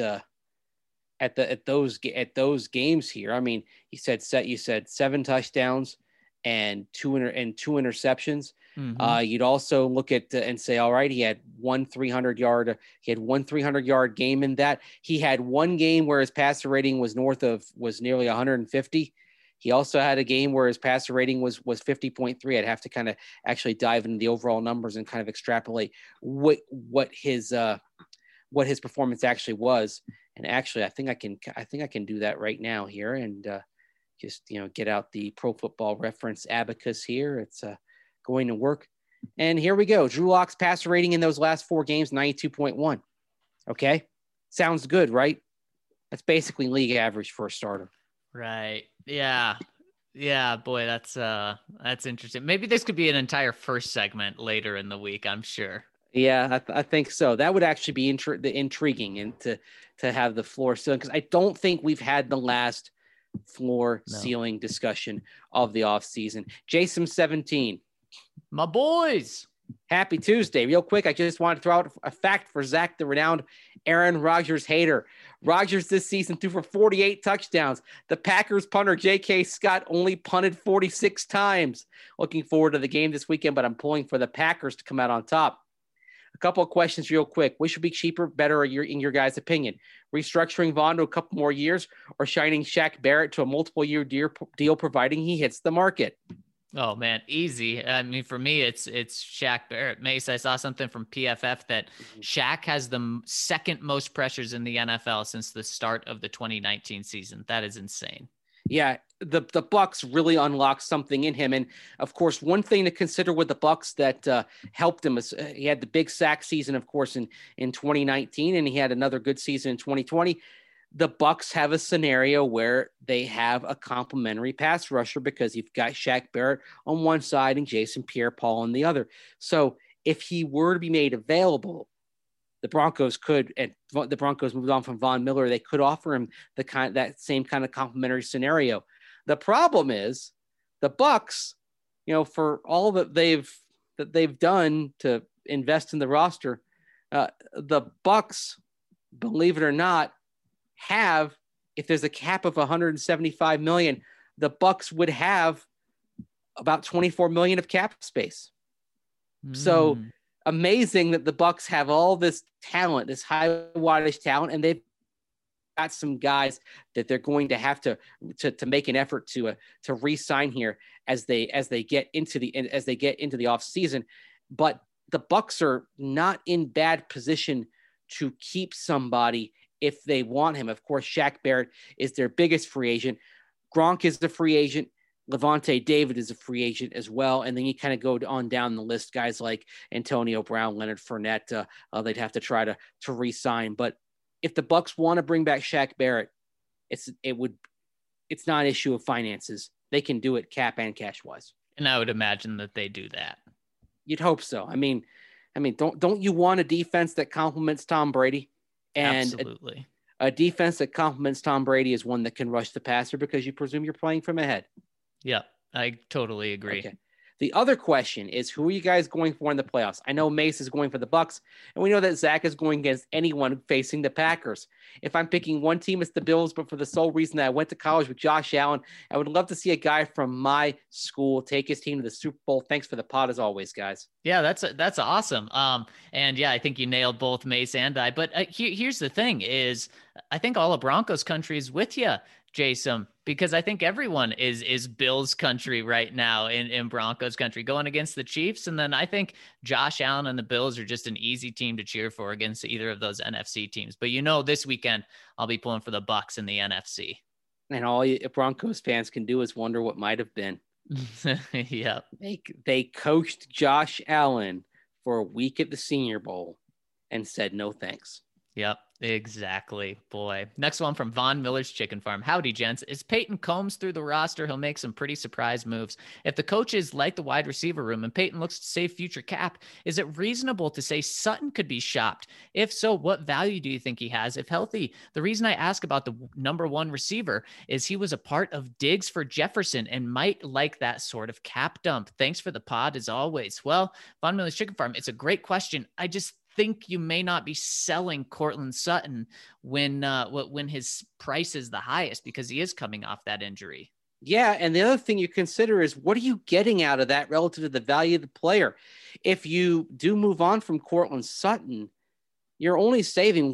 Speaker 3: those games here. I mean, you said 7 touchdowns and 2 interceptions. Mm-hmm. You'd also look at and say, all right, he had one 300-yard game in that. He had 1 game where his passer rating was nearly 150. He also had a game where his passer rating was 50.3. I'd have to kind of actually dive into the overall numbers and kind of extrapolate what his performance actually was. And actually, I think I can do that right now here and just get out the Pro Football Reference abacus here. It's going to work. And here we go. Drew Lock's passer rating in those last 4 games, 92.1. Okay. Sounds good, right? That's basically league average for a starter.
Speaker 1: Right. Yeah. Yeah, boy, that's interesting. Maybe this could be an entire first segment later in the week, I'm sure.
Speaker 3: Yeah, I think so. That would actually be intriguing and to have the floor ceiling, because I don't think we've had the last floor ceiling discussion of the offseason. Jason 17.
Speaker 1: My boys.
Speaker 3: Happy Tuesday. Real quick, I just want to throw out a fact for Zach, the renowned Aaron Rodgers hater. Rodgers this season threw for 48 touchdowns. The Packers punter J.K. Scott only punted 46 times. Looking forward to the game this weekend, but I'm pulling for the Packers to come out on top. A couple of questions real quick. Which would be cheaper, better in your guys' opinion? Restructuring Vaughn to a couple more years or signing Shaq Barrett to a multiple-year deal providing he hits the market?
Speaker 1: Oh man, easy. I mean, for me, it's Shaq Barrett. Mace, I saw something from PFF that Shaq has the second most pressures in the NFL since the start of the 2019 season. That is insane.
Speaker 3: Yeah, the Bucs really unlocked something in him, and of course, one thing to consider with the Bucs that helped him is he had the big sack season, of course, in 2019, and he had another good season in 2020. The Bucs have a scenario where they have a complementary pass rusher because you've got Shaq Barrett on one side and Jason Pierre-Paul on the other. So if he were to be made available, the Broncos could, and the Broncos moved on from Von Miller, they could offer him that same kind of complementary scenario. The problem is the Bucs, for all that they've done to invest in the roster, the Bucs, believe it or not, have, if there's a cap of 175 million, the Bucs would have about 24 million of cap space. So amazing that the Bucs have all this talent, this high wattage talent, and they've got some guys that they're going to have to make an effort to re-sign here as they get into the off season. But the Bucs are not in bad position to keep somebody if they want him. Of course, Shaq Barrett is their biggest free agent. Gronk is the free agent. Levante David is a free agent as well. And then you kind of go on down the list, guys like Antonio Brown, Leonard Fournette, they'd have to try to re-sign. But if the Bucs want to bring back Shaq Barrett, it's not an issue of finances. They can do it cap and cash wise.
Speaker 1: And I would imagine that they do that.
Speaker 3: You'd hope so. I mean, don't you want a defense that complements Tom Brady? And
Speaker 1: absolutely.
Speaker 3: A defense that complements Tom Brady is one that can rush the passer because you presume you're playing from ahead.
Speaker 1: Yeah, I totally agree.
Speaker 3: Okay. The other question is, who are you guys going for in the playoffs? I know Mace is going for the Bucs, and we know that Zach is going against anyone facing the Packers. If I'm picking one team, it's the Bills, but for the sole reason that I went to college with Josh Allen, I would love to see a guy from my school take his team to the Super Bowl. Thanks for the pod as always, guys.
Speaker 1: Yeah, that's awesome. And yeah, I think you nailed both Mace and I. But here's the thing: is I think all of Broncos country is with you, Jason, because I think everyone is Bills country right now in Broncos country going against the Chiefs. And then I think Josh Allen and the Bills are just an easy team to cheer for against either of those NFC teams. But this weekend I'll be pulling for the Bucs in the NFC.
Speaker 3: And all you Broncos fans can do is wonder what might have been.
Speaker 1: Yeah.
Speaker 3: They coached Josh Allen for a week at the Senior Bowl and said no thanks.
Speaker 1: Yep, exactly. Boy. Next one from Von Miller's Chicken Farm. Howdy, gents. As Peyton combs through the roster, he'll make some pretty surprise moves. If the coaches like the wide receiver room and Peyton looks to save future cap, is it reasonable to say Sutton could be shopped? If so, what value do you think he has if healthy? The reason I ask about the number one receiver is he was a part of Diggs for Jefferson and might like that sort of cap dump. Thanks for the pod as always. Well, Von Miller's Chicken Farm, it's a great question. I just think you may not be selling Courtland Sutton when his price is the highest because he is coming off that injury.
Speaker 3: Yeah, and the other thing you consider is what are you getting out of that relative to the value of the player? If you do move on from Courtland Sutton, you're only saving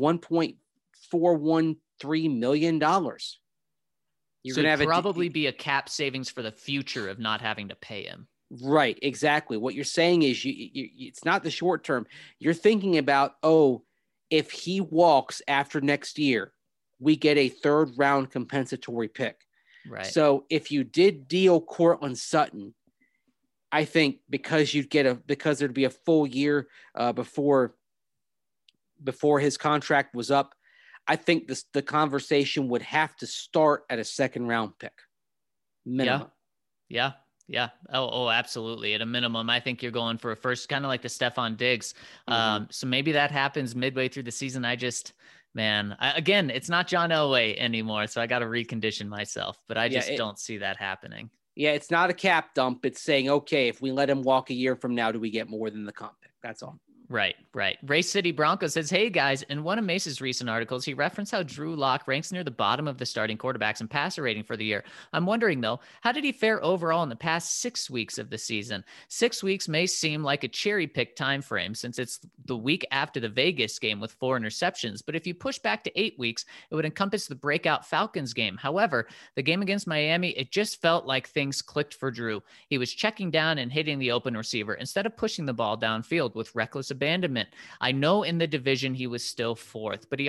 Speaker 3: $1.413 million. You're
Speaker 1: going to have probably be a cap savings for the future of not having to pay him.
Speaker 3: Right, exactly. What you're saying is it's not the short term. You're thinking about, if he walks after next year, we get a third round compensatory pick.
Speaker 1: Right.
Speaker 3: So if you did deal Courtland Sutton, I think because there'd be a full year before his contract was up, I think the conversation would have to start at a second round pick. Minimum.
Speaker 1: Yeah. Oh, absolutely. At a minimum, I think you're going for a first, kind of like the Stephon Diggs. So maybe that happens midway through the season. Again, it's not John Elway anymore, so I got to recondition myself, but I just don't see that happening.
Speaker 3: Yeah, it's not a cap dump. It's saying, okay, if we let him walk a year from now, do we get more than the comp pick? That's all.
Speaker 1: Right. Race City Bronco says, hey guys, in one of Mace's recent articles, he referenced how Drew Lock ranks near the bottom of the starting quarterbacks in passer rating for the year. I'm wondering though, how did he fare overall in the past 6 weeks of the season? 6 weeks may seem like a cherry pick time frame since it's the week after the Vegas game with 4 interceptions. But if you push back to 8 weeks, it would encompass the breakout Falcons game. However, the game against Miami, it just felt like things clicked for Drew. He was checking down and hitting the open receiver instead of pushing the ball downfield with reckless abandonment. I know in the division he was still 4th, but he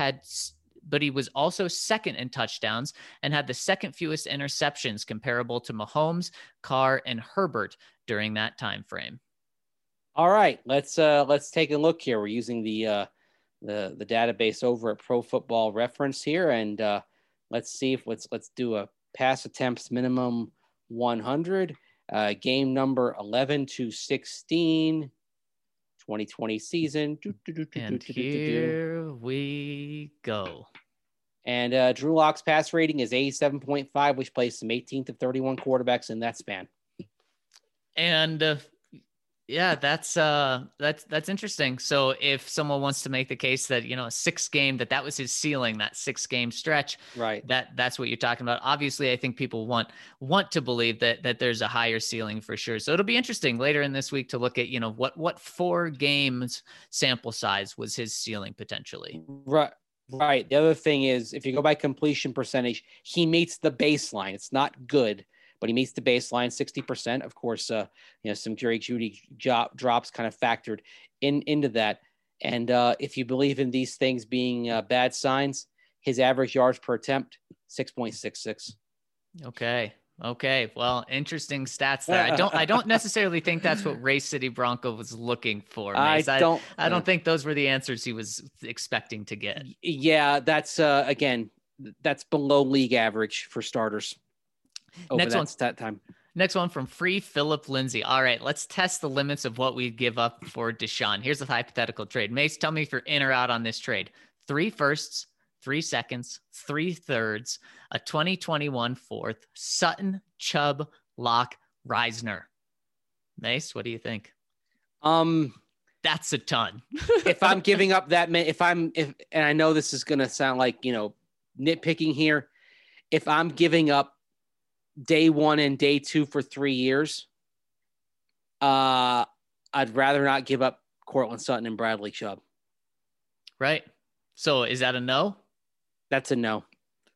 Speaker 1: was also 2nd in touchdowns and had the 2nd fewest interceptions, comparable to Mahomes, Carr, and Herbert during that time frame.
Speaker 3: All right, let's take a look here. We're using the database over at Pro Football Reference here, and let's see if let's do a pass attempts minimum 100, game number 11 to 16. 2020 season.
Speaker 1: And here we go.
Speaker 3: And Drew Lock's pass rating is 87.5, which placed him 18th of 31 quarterbacks in that span.
Speaker 1: And yeah, that's interesting. So if someone wants to make the case that, a 6-game, that was his ceiling, that 6-game stretch,
Speaker 3: right?
Speaker 1: That's what you're talking about. Obviously, I think people want to believe that there's a higher ceiling for sure. So it'll be interesting later in this week to look at, what 4 games sample size was his ceiling potentially.
Speaker 3: Right. The other thing is, if you go by completion percentage, he meets the baseline. It's not good, but he meets the baseline 60%. Of course, some Jerry Jeudy drops kind of factored into that. And if you believe in these things being bad signs, his average yards per attempt, 6.66.
Speaker 1: Okay. Well, interesting stats there. I don't necessarily think that's what Race City Bronco was looking for. Mace. I don't think those were the answers he was expecting to get.
Speaker 3: Yeah, that's again, that's below league average for starters. That time.
Speaker 1: Next one from Free Philip Lindsay. All right, let's test the limits of what we'd give up for Deshaun. Here's a hypothetical trade. Mace, tell me if you're in or out on this trade. 3 firsts, 3 seconds, 3 thirds, a 2021 4th, Sutton, Chubb, Lock, Reisner. Mace, what do you think? That's a ton.
Speaker 3: If I'm giving up that many, and I know this is going to sound like, nitpicking here. If I'm giving up day 1 and day 2 for 3 years, I'd rather not give up Courtland Sutton and Bradley Chubb.
Speaker 1: Right. So is that a no?
Speaker 3: That's a no.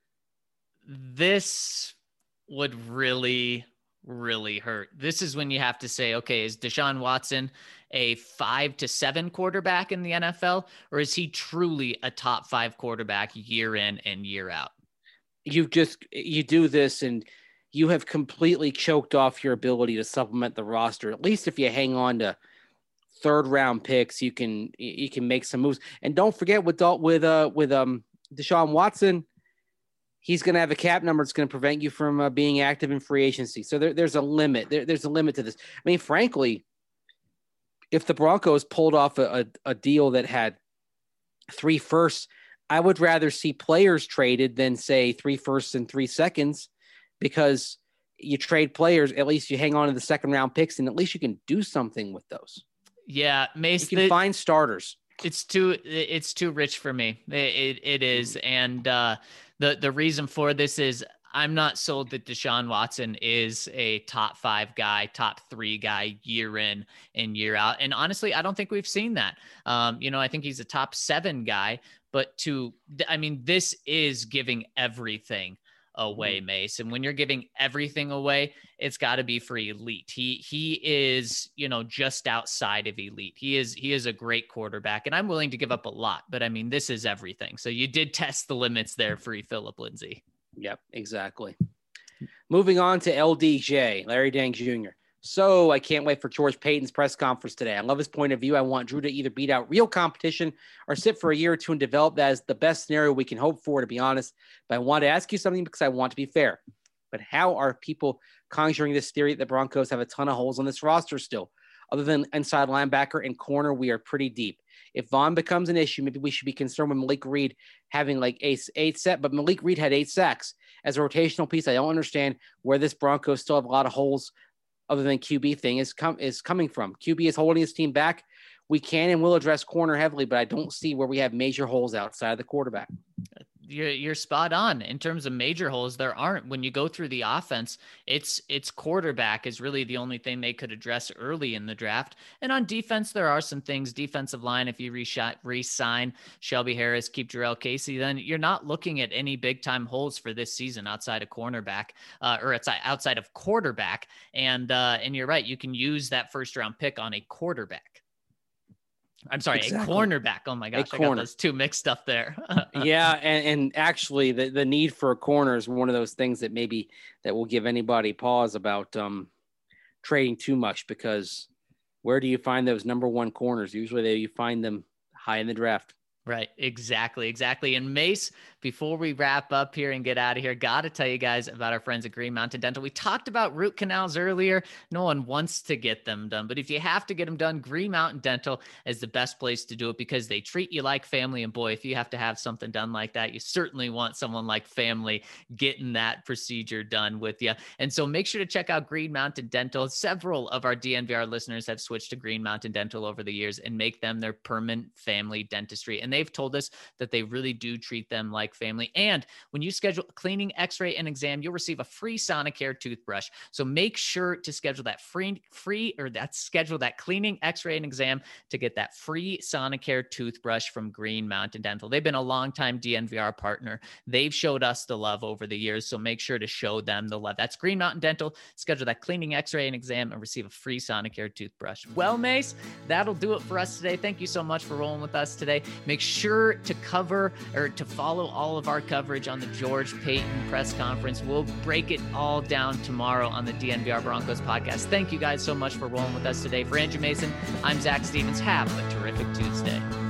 Speaker 1: This would really, really hurt. This is when you have to say, okay, is Deshaun Watson a 5 to 7 quarterback in the NFL, or is he truly a top 5 quarterback year in and year out?
Speaker 3: You do this and you have completely choked off your ability to supplement the roster. At least if you hang on to 3rd round picks, you can make some moves. And don't forget with Deshaun Watson, he's going to have a cap number that's going to prevent you from being active in free agency. So there's a limit. There's a limit to this. I mean, frankly, if the Broncos pulled off a deal that had 3 firsts, I would rather see players traded than say 3 firsts and 3 seconds. Because you trade players, at least you hang on to the 2nd round picks, and at least you can do something with those.
Speaker 1: Yeah, Mace,
Speaker 3: you can find starters.
Speaker 1: It's too rich for me. It is, and the reason for this is I'm not sold that Deshaun Watson is a top 5 guy, top 3 guy year in and year out. And honestly, I don't think we've seen that. I think he's a top 7 guy, but this is giving everything away, Mace. And when you're giving everything away, it's got to be for elite. He is, just outside of elite. He is a great quarterback, and I'm willing to give up a lot, but this is everything. So you did test the limits there, Free Philip Lindsay.
Speaker 3: Yep, exactly. Moving on to LDJ, Larry Dang Jr. So I can't wait for George Payton's press conference today. I love his point of view. I want Drew to either beat out real competition or sit for a year or 2 and develop that as the best scenario we can hope for, to be honest. But I want to ask you something because I want to be fair. But how are people conjuring this theory that the Broncos have a ton of holes on this roster still? Other than inside linebacker and corner, we are pretty deep. If Vaughn becomes an issue, maybe we should be concerned with Malik Reed having like 8 sacks, but Malik Reed had 8 sacks. As a rotational piece, I don't understand where this Broncos still have a lot of holes other than QB thing is coming from. QB is holding his team back we can and will address corner heavily, but I don't see where we have major holes outside of the quarterback.
Speaker 1: You're spot on. In terms of major holes, there aren't. When you go through the offense, it's quarterback is really the only thing they could address early in the draft. And on defense, there are some things. Defensive line, if you re-sign Shelby Harris, keep Jarrell Casey, then you're not looking at any big time holes for this season outside of cornerback, or it's outside of quarterback. And you're right, you can use that first round pick on a quarterback. I'm sorry, exactly. A cornerback. Oh my gosh, I got those two mixed up there.
Speaker 3: Yeah, and actually the need for a corner is one of those things that will give anybody pause about trading too much, because where do you find those number one corners? Usually you find them high in the draft.
Speaker 1: Right. Exactly. And Mace, before we wrap up here and get out of here, got to tell you guys about our friends at Green Mountain Dental. We talked about root canals earlier. No one wants to get them done, but if you have to get them done, Green Mountain Dental is the best place to do it, because they treat you like family. And boy, if you have to have something done like that, you certainly want someone like family getting that procedure done with you. And so make sure to check out Green Mountain Dental. Several of our DNVR listeners have switched to Green Mountain Dental over the years and make them their permanent family dentistry. And they've told us that they really do treat them like family. And when you schedule a cleaning, x-ray, and exam, you'll receive a free Sonicare toothbrush. So make sure to schedule that schedule that cleaning, x-ray, and exam to get that free Sonicare toothbrush from Green Mountain Dental. They've been a longtime DNVR partner. They've showed us the love over the years, so make sure to show them the love. That's Green Mountain Dental. Schedule that cleaning, x-ray, and exam and receive a free Sonicare toothbrush. Well, Mace, that'll do it for us today. Thank you so much for rolling with us today. Make sure to follow all of our coverage on the George Paton press conference. We'll break it all down tomorrow on the DNVR Broncos podcast. Thank you guys so much for rolling with us today. For Andrew Mason, I'm Zach Stevens. Have a terrific Tuesday.